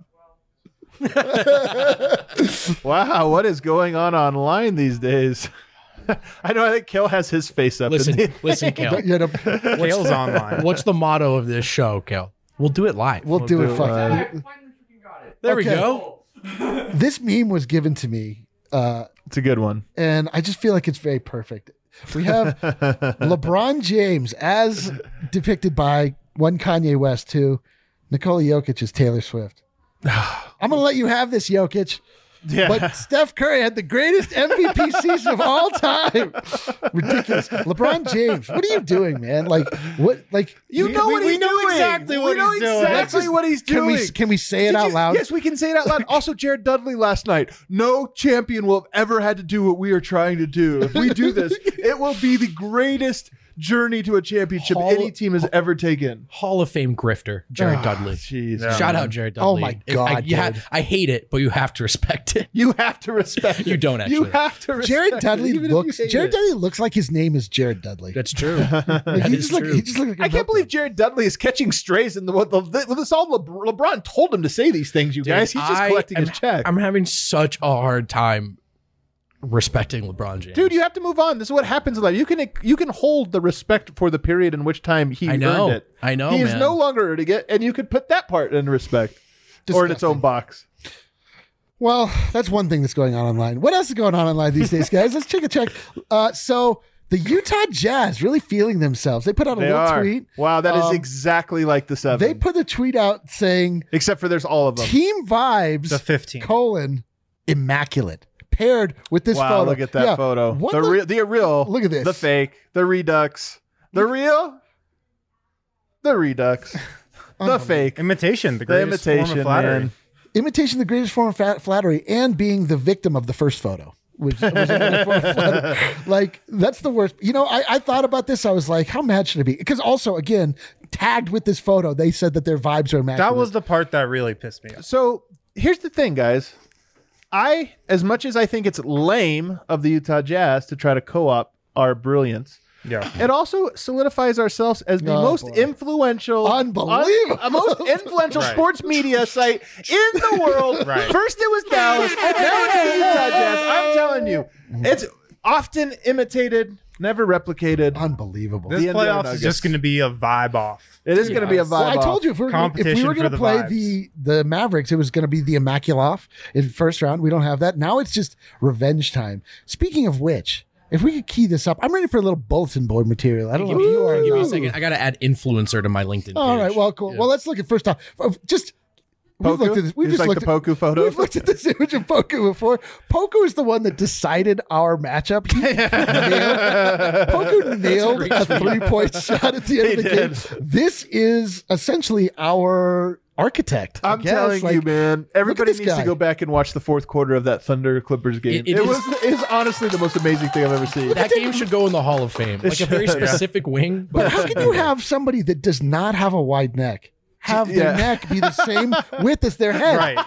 Wow, what is going on online these days? I know. I think Kel has his face up. Listen, in the- listen, Kel. You know, Kale's online. What's the motto of this show, Kel? We'll do it live. we'll, do, do it. it Fuck. live. there we okay. go. This meme was given to me, uh, It's a good one. and I just feel like it's very perfect. We have LeBron James as depicted by one Kanye West, two Nikola Jokic as Taylor Swift. I'm going to let you have this, Jokic. Yeah. But Steph Curry had the greatest M V P season of all time. Ridiculous. LeBron James, what are you doing, man? Like, what? Like, you know we- what we he's know doing. exactly we what know he's doing. exactly Let's just- what he's can doing. we can we say it Did out you- loud? Yes, we can say it out loud. Also, Jared Dudley last night. No champion will have ever had to do what we are trying to do. If we do this, it will be the greatest journey to a championship Hall- any team has ever taken. Hall of Fame grifter, Jared Dudley. Jeez. Yeah. Shout out, Jared Oh Dudley. my If- God, I, yeah, dude. I hate it, but you have to respect it. You have to respect it. You don't You actually. have to respect Jared it, Dudley even if you looks hate Jared it. Dudley looks like his name is Jared Dudley. That's true. Like, that he is just look, true. he just look like a I can't believe Jared Dudley is catching strays in the what the, the, this all Le- LeBron told him to say these things, you Dude, guys. He's just I collecting am- his check. I'm having such a hard time respecting LeBron James. Dude, you have to move on. This is what happens in life. You can you can hold the respect for the period in which time he I know. earned it. I know, He is man. no longer earning it, and you could put that part in respect. Or in its own box. Well, that's one thing that's going on online. What else is going on online these days, guys? Let's take a check. Uh, so the Utah Jazz really feeling themselves. They put out a They little are. tweet. Wow, that is Um, exactly like the seven. They put a tweet out saying Except for there's all of them. Team Vibes The fifteen. colon immaculate paired with this Wow, photo. look at that Yeah. photo. What The the- real, the real. Look at this. The fake. The redux. The real. The redux. The Unbelievable. fake. Imitation, the The greatest form imitation, of flattery. man. Imitation the greatest form of fat- flattery and being the victim of the first photo. Which was another form of flattery. Like, that's the worst. You know, I, I thought about this. I was like, how mad should it be? Because also, again, tagged with this photo, they said that their vibes are immaculate. That was the part that really pissed me off. So here's the thing, guys. I, as much as I think it's lame of the Utah Jazz to try to co-op our brilliance, Yeah. it also solidifies ourselves as the Oh, most boy. influential, Unbelievable. un- most influential Right. sports media site in the world. Right. First it was Dallas, now it's the Utah Jazz. I'm telling you, it's often imitated, never replicated. unbelievable. This The Indiana playoffs is Nuggets. just going to be a vibe off. It is going to be a vibe. Well, I told off. you if we were gonna, if we Competition were for going to the play vibes. the the Mavericks, it was going to be the Immaculate in first round. We don't have that now. It's just revenge time. Speaking of which, if we could key this up, I'm ready for a little bulletin board material. I don't know if you are. or Give me a not. second. I got to add influencer to my LinkedIn page. All right. Well, cool. Yeah. Well, let's look at first off. uh, Just we've Poku? looked at this. We've It's just like looked the at, Poku photo? We've looked at this image of Poku before. Poku is the one that decided our matchup. He nailed, Poku nailed a three point shot at the end He of the did. game. This is essentially our architect. I I'm guess. telling Like, you, man. Everybody this needs guy. to go back and watch the fourth quarter of that Thunder Clippers game. It- It, it is- was is honestly the most amazing thing I've ever seen. That game should go in the Hall of Fame. Like a very should, yeah. specific wing. But how can you have somebody that does not have a wide neck have their Yeah. neck be the same width as their head? Right.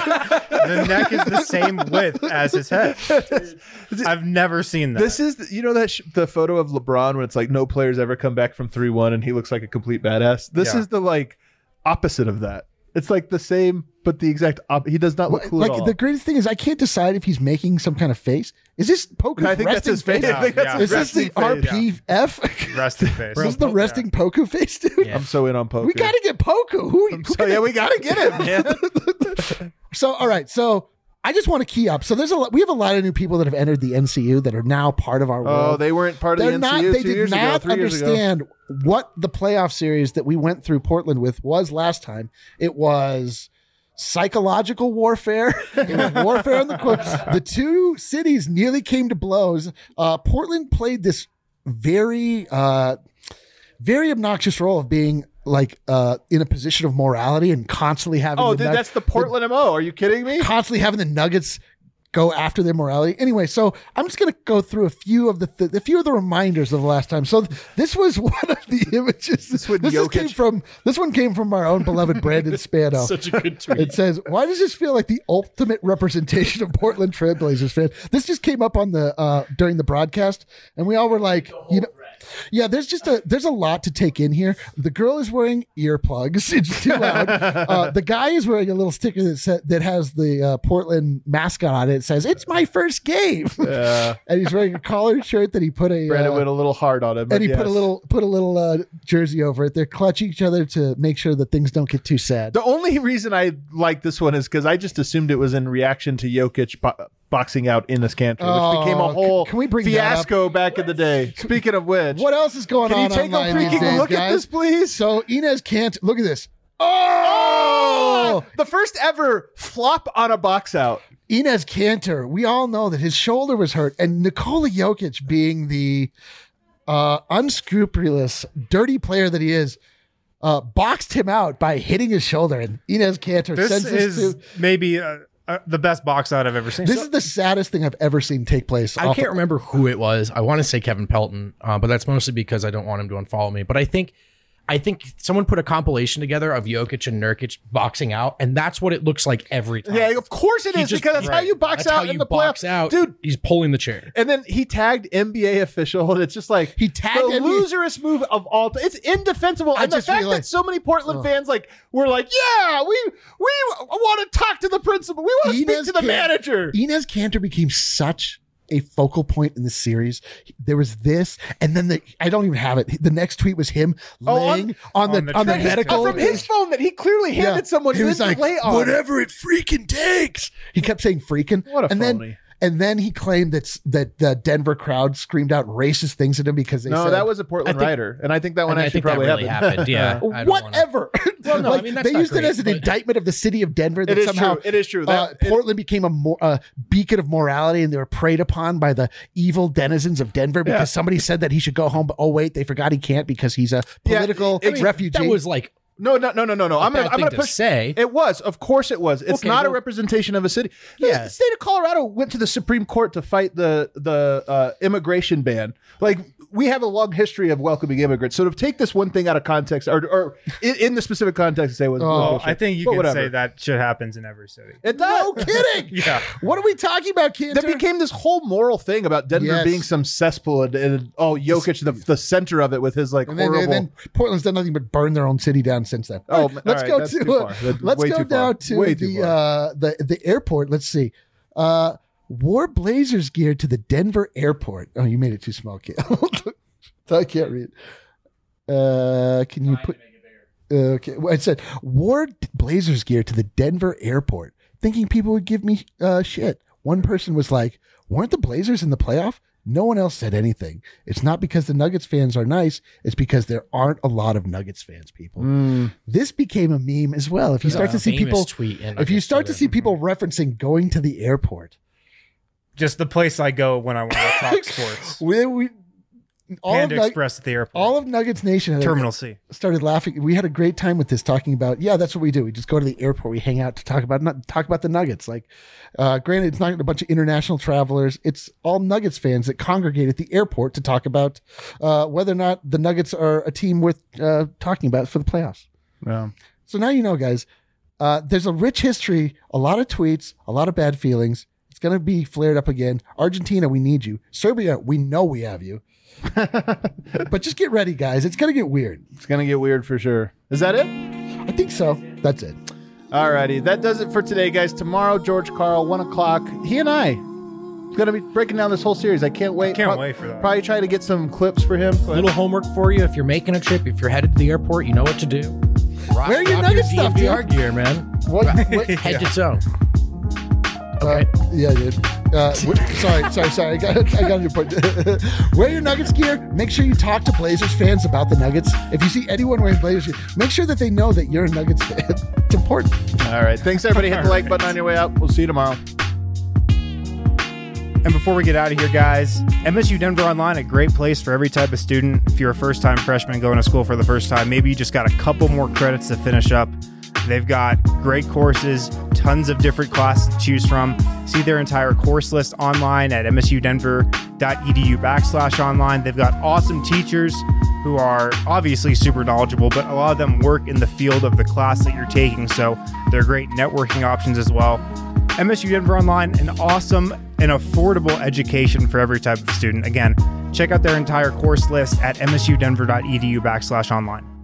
The neck is the same width as his head. I've never seen that. This is, the- you know, that sh- the photo of LeBron when it's like no players ever come back from three one and he looks like a complete badass. This Yeah. is the like opposite of that. It's like the same, but the exact op- he does not look cool at Like all. the greatest thing is, I can't decide if he's making some kind of face. Is this Poku's I think that's resting his face. face? I think that's Yeah, his Is this the resting R face. P F? resting face. This is the resting Poku face, dude. Yeah. I'm so in on poker. We got to get Poku. Who? who So yeah, we got to get him, man. So, all right. So, I just want to key up. So, there's a lot, we have a lot of new people that have entered the N C U that are now part of our world. Oh, they weren't part of They're the not. N C U They two did years ago, not three years ago. understand what the playoff series that we went through Portland with was last time. It was psychological warfare. It was warfare on the court. The two cities nearly came to blows. Uh, Portland played this very, uh, very obnoxious role of being like uh, in a position of morality and constantly having. Oh, the dude, Nug- that's the Portland M O. Are you kidding me? Constantly having the Nuggets go after their morality. Anyway, so I'm just going to go through a few of the th- a few of the reminders of the last time. So th- this was one of the images. This, one this just came Jokic. from this one came from our own beloved Brandon Spano. Such a good tweet. It says, "Why does this feel like the ultimate representation of Portland Trailblazers fan?" This just came up on the uh, during the broadcast, and we all were like, you know. Yeah, there's just a there's a lot to take in here. The girl is wearing earplugs; it's too loud. Uh, the guy is wearing a little sticker that sa- that has the uh, Portland mascot on it. It says, "It's my first game," Yeah. and he's wearing a collared shirt that he put a Brandon uh, went a little hard on him. but and he put a yes. little put a little uh, jersey over it. They're clutching each other to make sure that things don't get too sad. The only reason I like this one is because I just assumed it was in reaction to Jokic bo- boxing out in this Cantor, which Oh, became a whole can we bring that fiasco back in the day. Speaking of which, What else is going can on you take a online these freaking days, look guys? at this, please? So Inez can't look at this. Oh, Oh, the first ever flop on a box out. Inez Cantor. We all know that his shoulder was hurt, and Nikola Jokic, being the uh, unscrupulous, dirty player that he is, uh, boxed him out by hitting his shoulder. And Inez Cantor This sends this is to. maybe uh, uh, the best box out I've ever seen. This is the saddest thing I've ever seen take place. I off can't of- remember who it was. I want to say Kevin Pelton, uh, but that's mostly because I don't want him to unfollow me. But I think, I think someone put a compilation together of Jokic and Nurkic boxing out, and that's what it looks like every time. Yeah, of course it He is just- because that's how right. you box That's out how in you the box playoffs, out, dude. He's pulling the chair. And then he tagged N B A official, and it's just like He tagged the N B A loserest move of all time. It's indefensible. I And the just fact realized- that so many Portland fans like were like, "Yeah, we we want to talk to the principal. We want to speak Inez to the Can- manager." Inez Cantor became such a focal point in the series. There was this, and then the I don't even have it. The next tweet was him Oh, on- laying on, the on the on the train. medical Uh, from his phone that he clearly handed Yeah. someone. He was didn't like, lay on. whatever it freaking takes. He kept saying freaking. What a and phony. then and then he claimed that that the Denver crowd screamed out racist things at him because they No, said that was a Portland I think- writer, and I think that one And I actually think that probably really happened. happened. Yeah. I don't wanna- whatever. Well, no, I Like, mean, that's they not used it great, as an but- indictment of the city of Denver that It is somehow true. It is true. uh, That- it- Portland became a more uh, beacon of morality, and they were preyed upon by the evil denizens of Denver because Yeah. somebody said that he should go home, but oh wait, they forgot he can't because he's a Yeah, political I mean, refugee. That was like No, no, no, no, no, no. I'm gonna, bad I'm thing gonna to push. say. It was, of course, it was. It's Okay, not a well- representation of a city. Yeah. The state of Colorado went to the Supreme Court to fight the the uh, immigration ban. Like, we have a long history of welcoming immigrants. So to take this one thing out of context, or, or in, in the specific context, to say was, Oh, was Well, bullshit. I think you But can whatever. say that shit happens in every city. It does. no kidding. Yeah. What are we talking about, Cantor? That became this whole moral thing about Denver Yes. being some cesspool, and, and oh, Jokic, the, the center of it with his like And then, horrible. and then Portland's done nothing but burn their own city down since then. Oh, All right, all let's right, go that's to too uh, far. That's let's way go too now far. to Way too the far. uh, the the airport. Let's see. Uh, wore Blazers gear to the Denver airport. Oh, you made it too small, kid. I can't read. Uh, can you put? Okay, well, it said wore Blazers gear to the Denver airport, thinking people would give me uh, shit. One person was like, "Weren't the Blazers in the playoff?" No one else said anything. It's not because the Nuggets fans are nice. It's because there aren't a lot of Nuggets fans, people. Mm. This became a meme as well. If you start to see famous people, tweet in if you Nuggets start to Twitter. see people referencing going to the airport, Just the place I go when I want to talk sports. we, we all of, Panda Nug- Express at the airport. all of Nuggets Nation had a- Terminal C. started laughing. We had a great time with this, talking about, yeah, that's what we do. We just go to the airport. We hang out to talk about not talk about the Nuggets. Like, uh, granted, it's not a bunch of international travelers. It's all Nuggets fans that congregate at the airport to talk about uh, whether or not the Nuggets are a team worth uh, talking about for the playoffs. Yeah. So now you know, guys. Uh, there's a rich history, a lot of tweets, a lot of bad feelings. It's going to be flared up again. Argentina, we need you. Serbia, we know we have you. But just get ready, guys. It's going to get weird. It's gonna get weird for sure. Is that it? I think so. That's it. Alrighty, that does it for today, guys. Tomorrow, George Carl, one o'clock. He and I gonna be breaking down this whole series. I can't wait. Can't Pro- wait for that. Probably try to get some clips for him. A little homework for you. If you're making a trip, if you're headed to the airport, you know what to do. Rock, Wear your rock Nugget stuff, D N V R dude. gear, man. What? what Head to toe. uh, Okay. yeah, dude. Uh, w- sorry, sorry, sorry. I got, I got your point. Wear your Nuggets gear. Make sure you talk to Blazers fans about the Nuggets. If you see anyone wearing Blazers gear, make sure that they know that you're a Nuggets fan. It's important. All right. Thanks, everybody. Hit the like button on your way out. We'll see you tomorrow. And before we get out of here, guys, M S U Denver Online, a great place for every type of student. If you're a first-time freshman going to school for the first time, maybe you just got a couple more credits to finish up. They've got great courses, tons of different classes to choose from. See their entire course list online at msudenver.edu backslash online. They've got awesome teachers who are obviously super knowledgeable, but a lot of them work in the field of the class that you're taking, so they're great networking options as well. M S U Denver Online, an awesome and affordable education for every type of student. Again, check out their entire course list at msudenver.edu backslash online.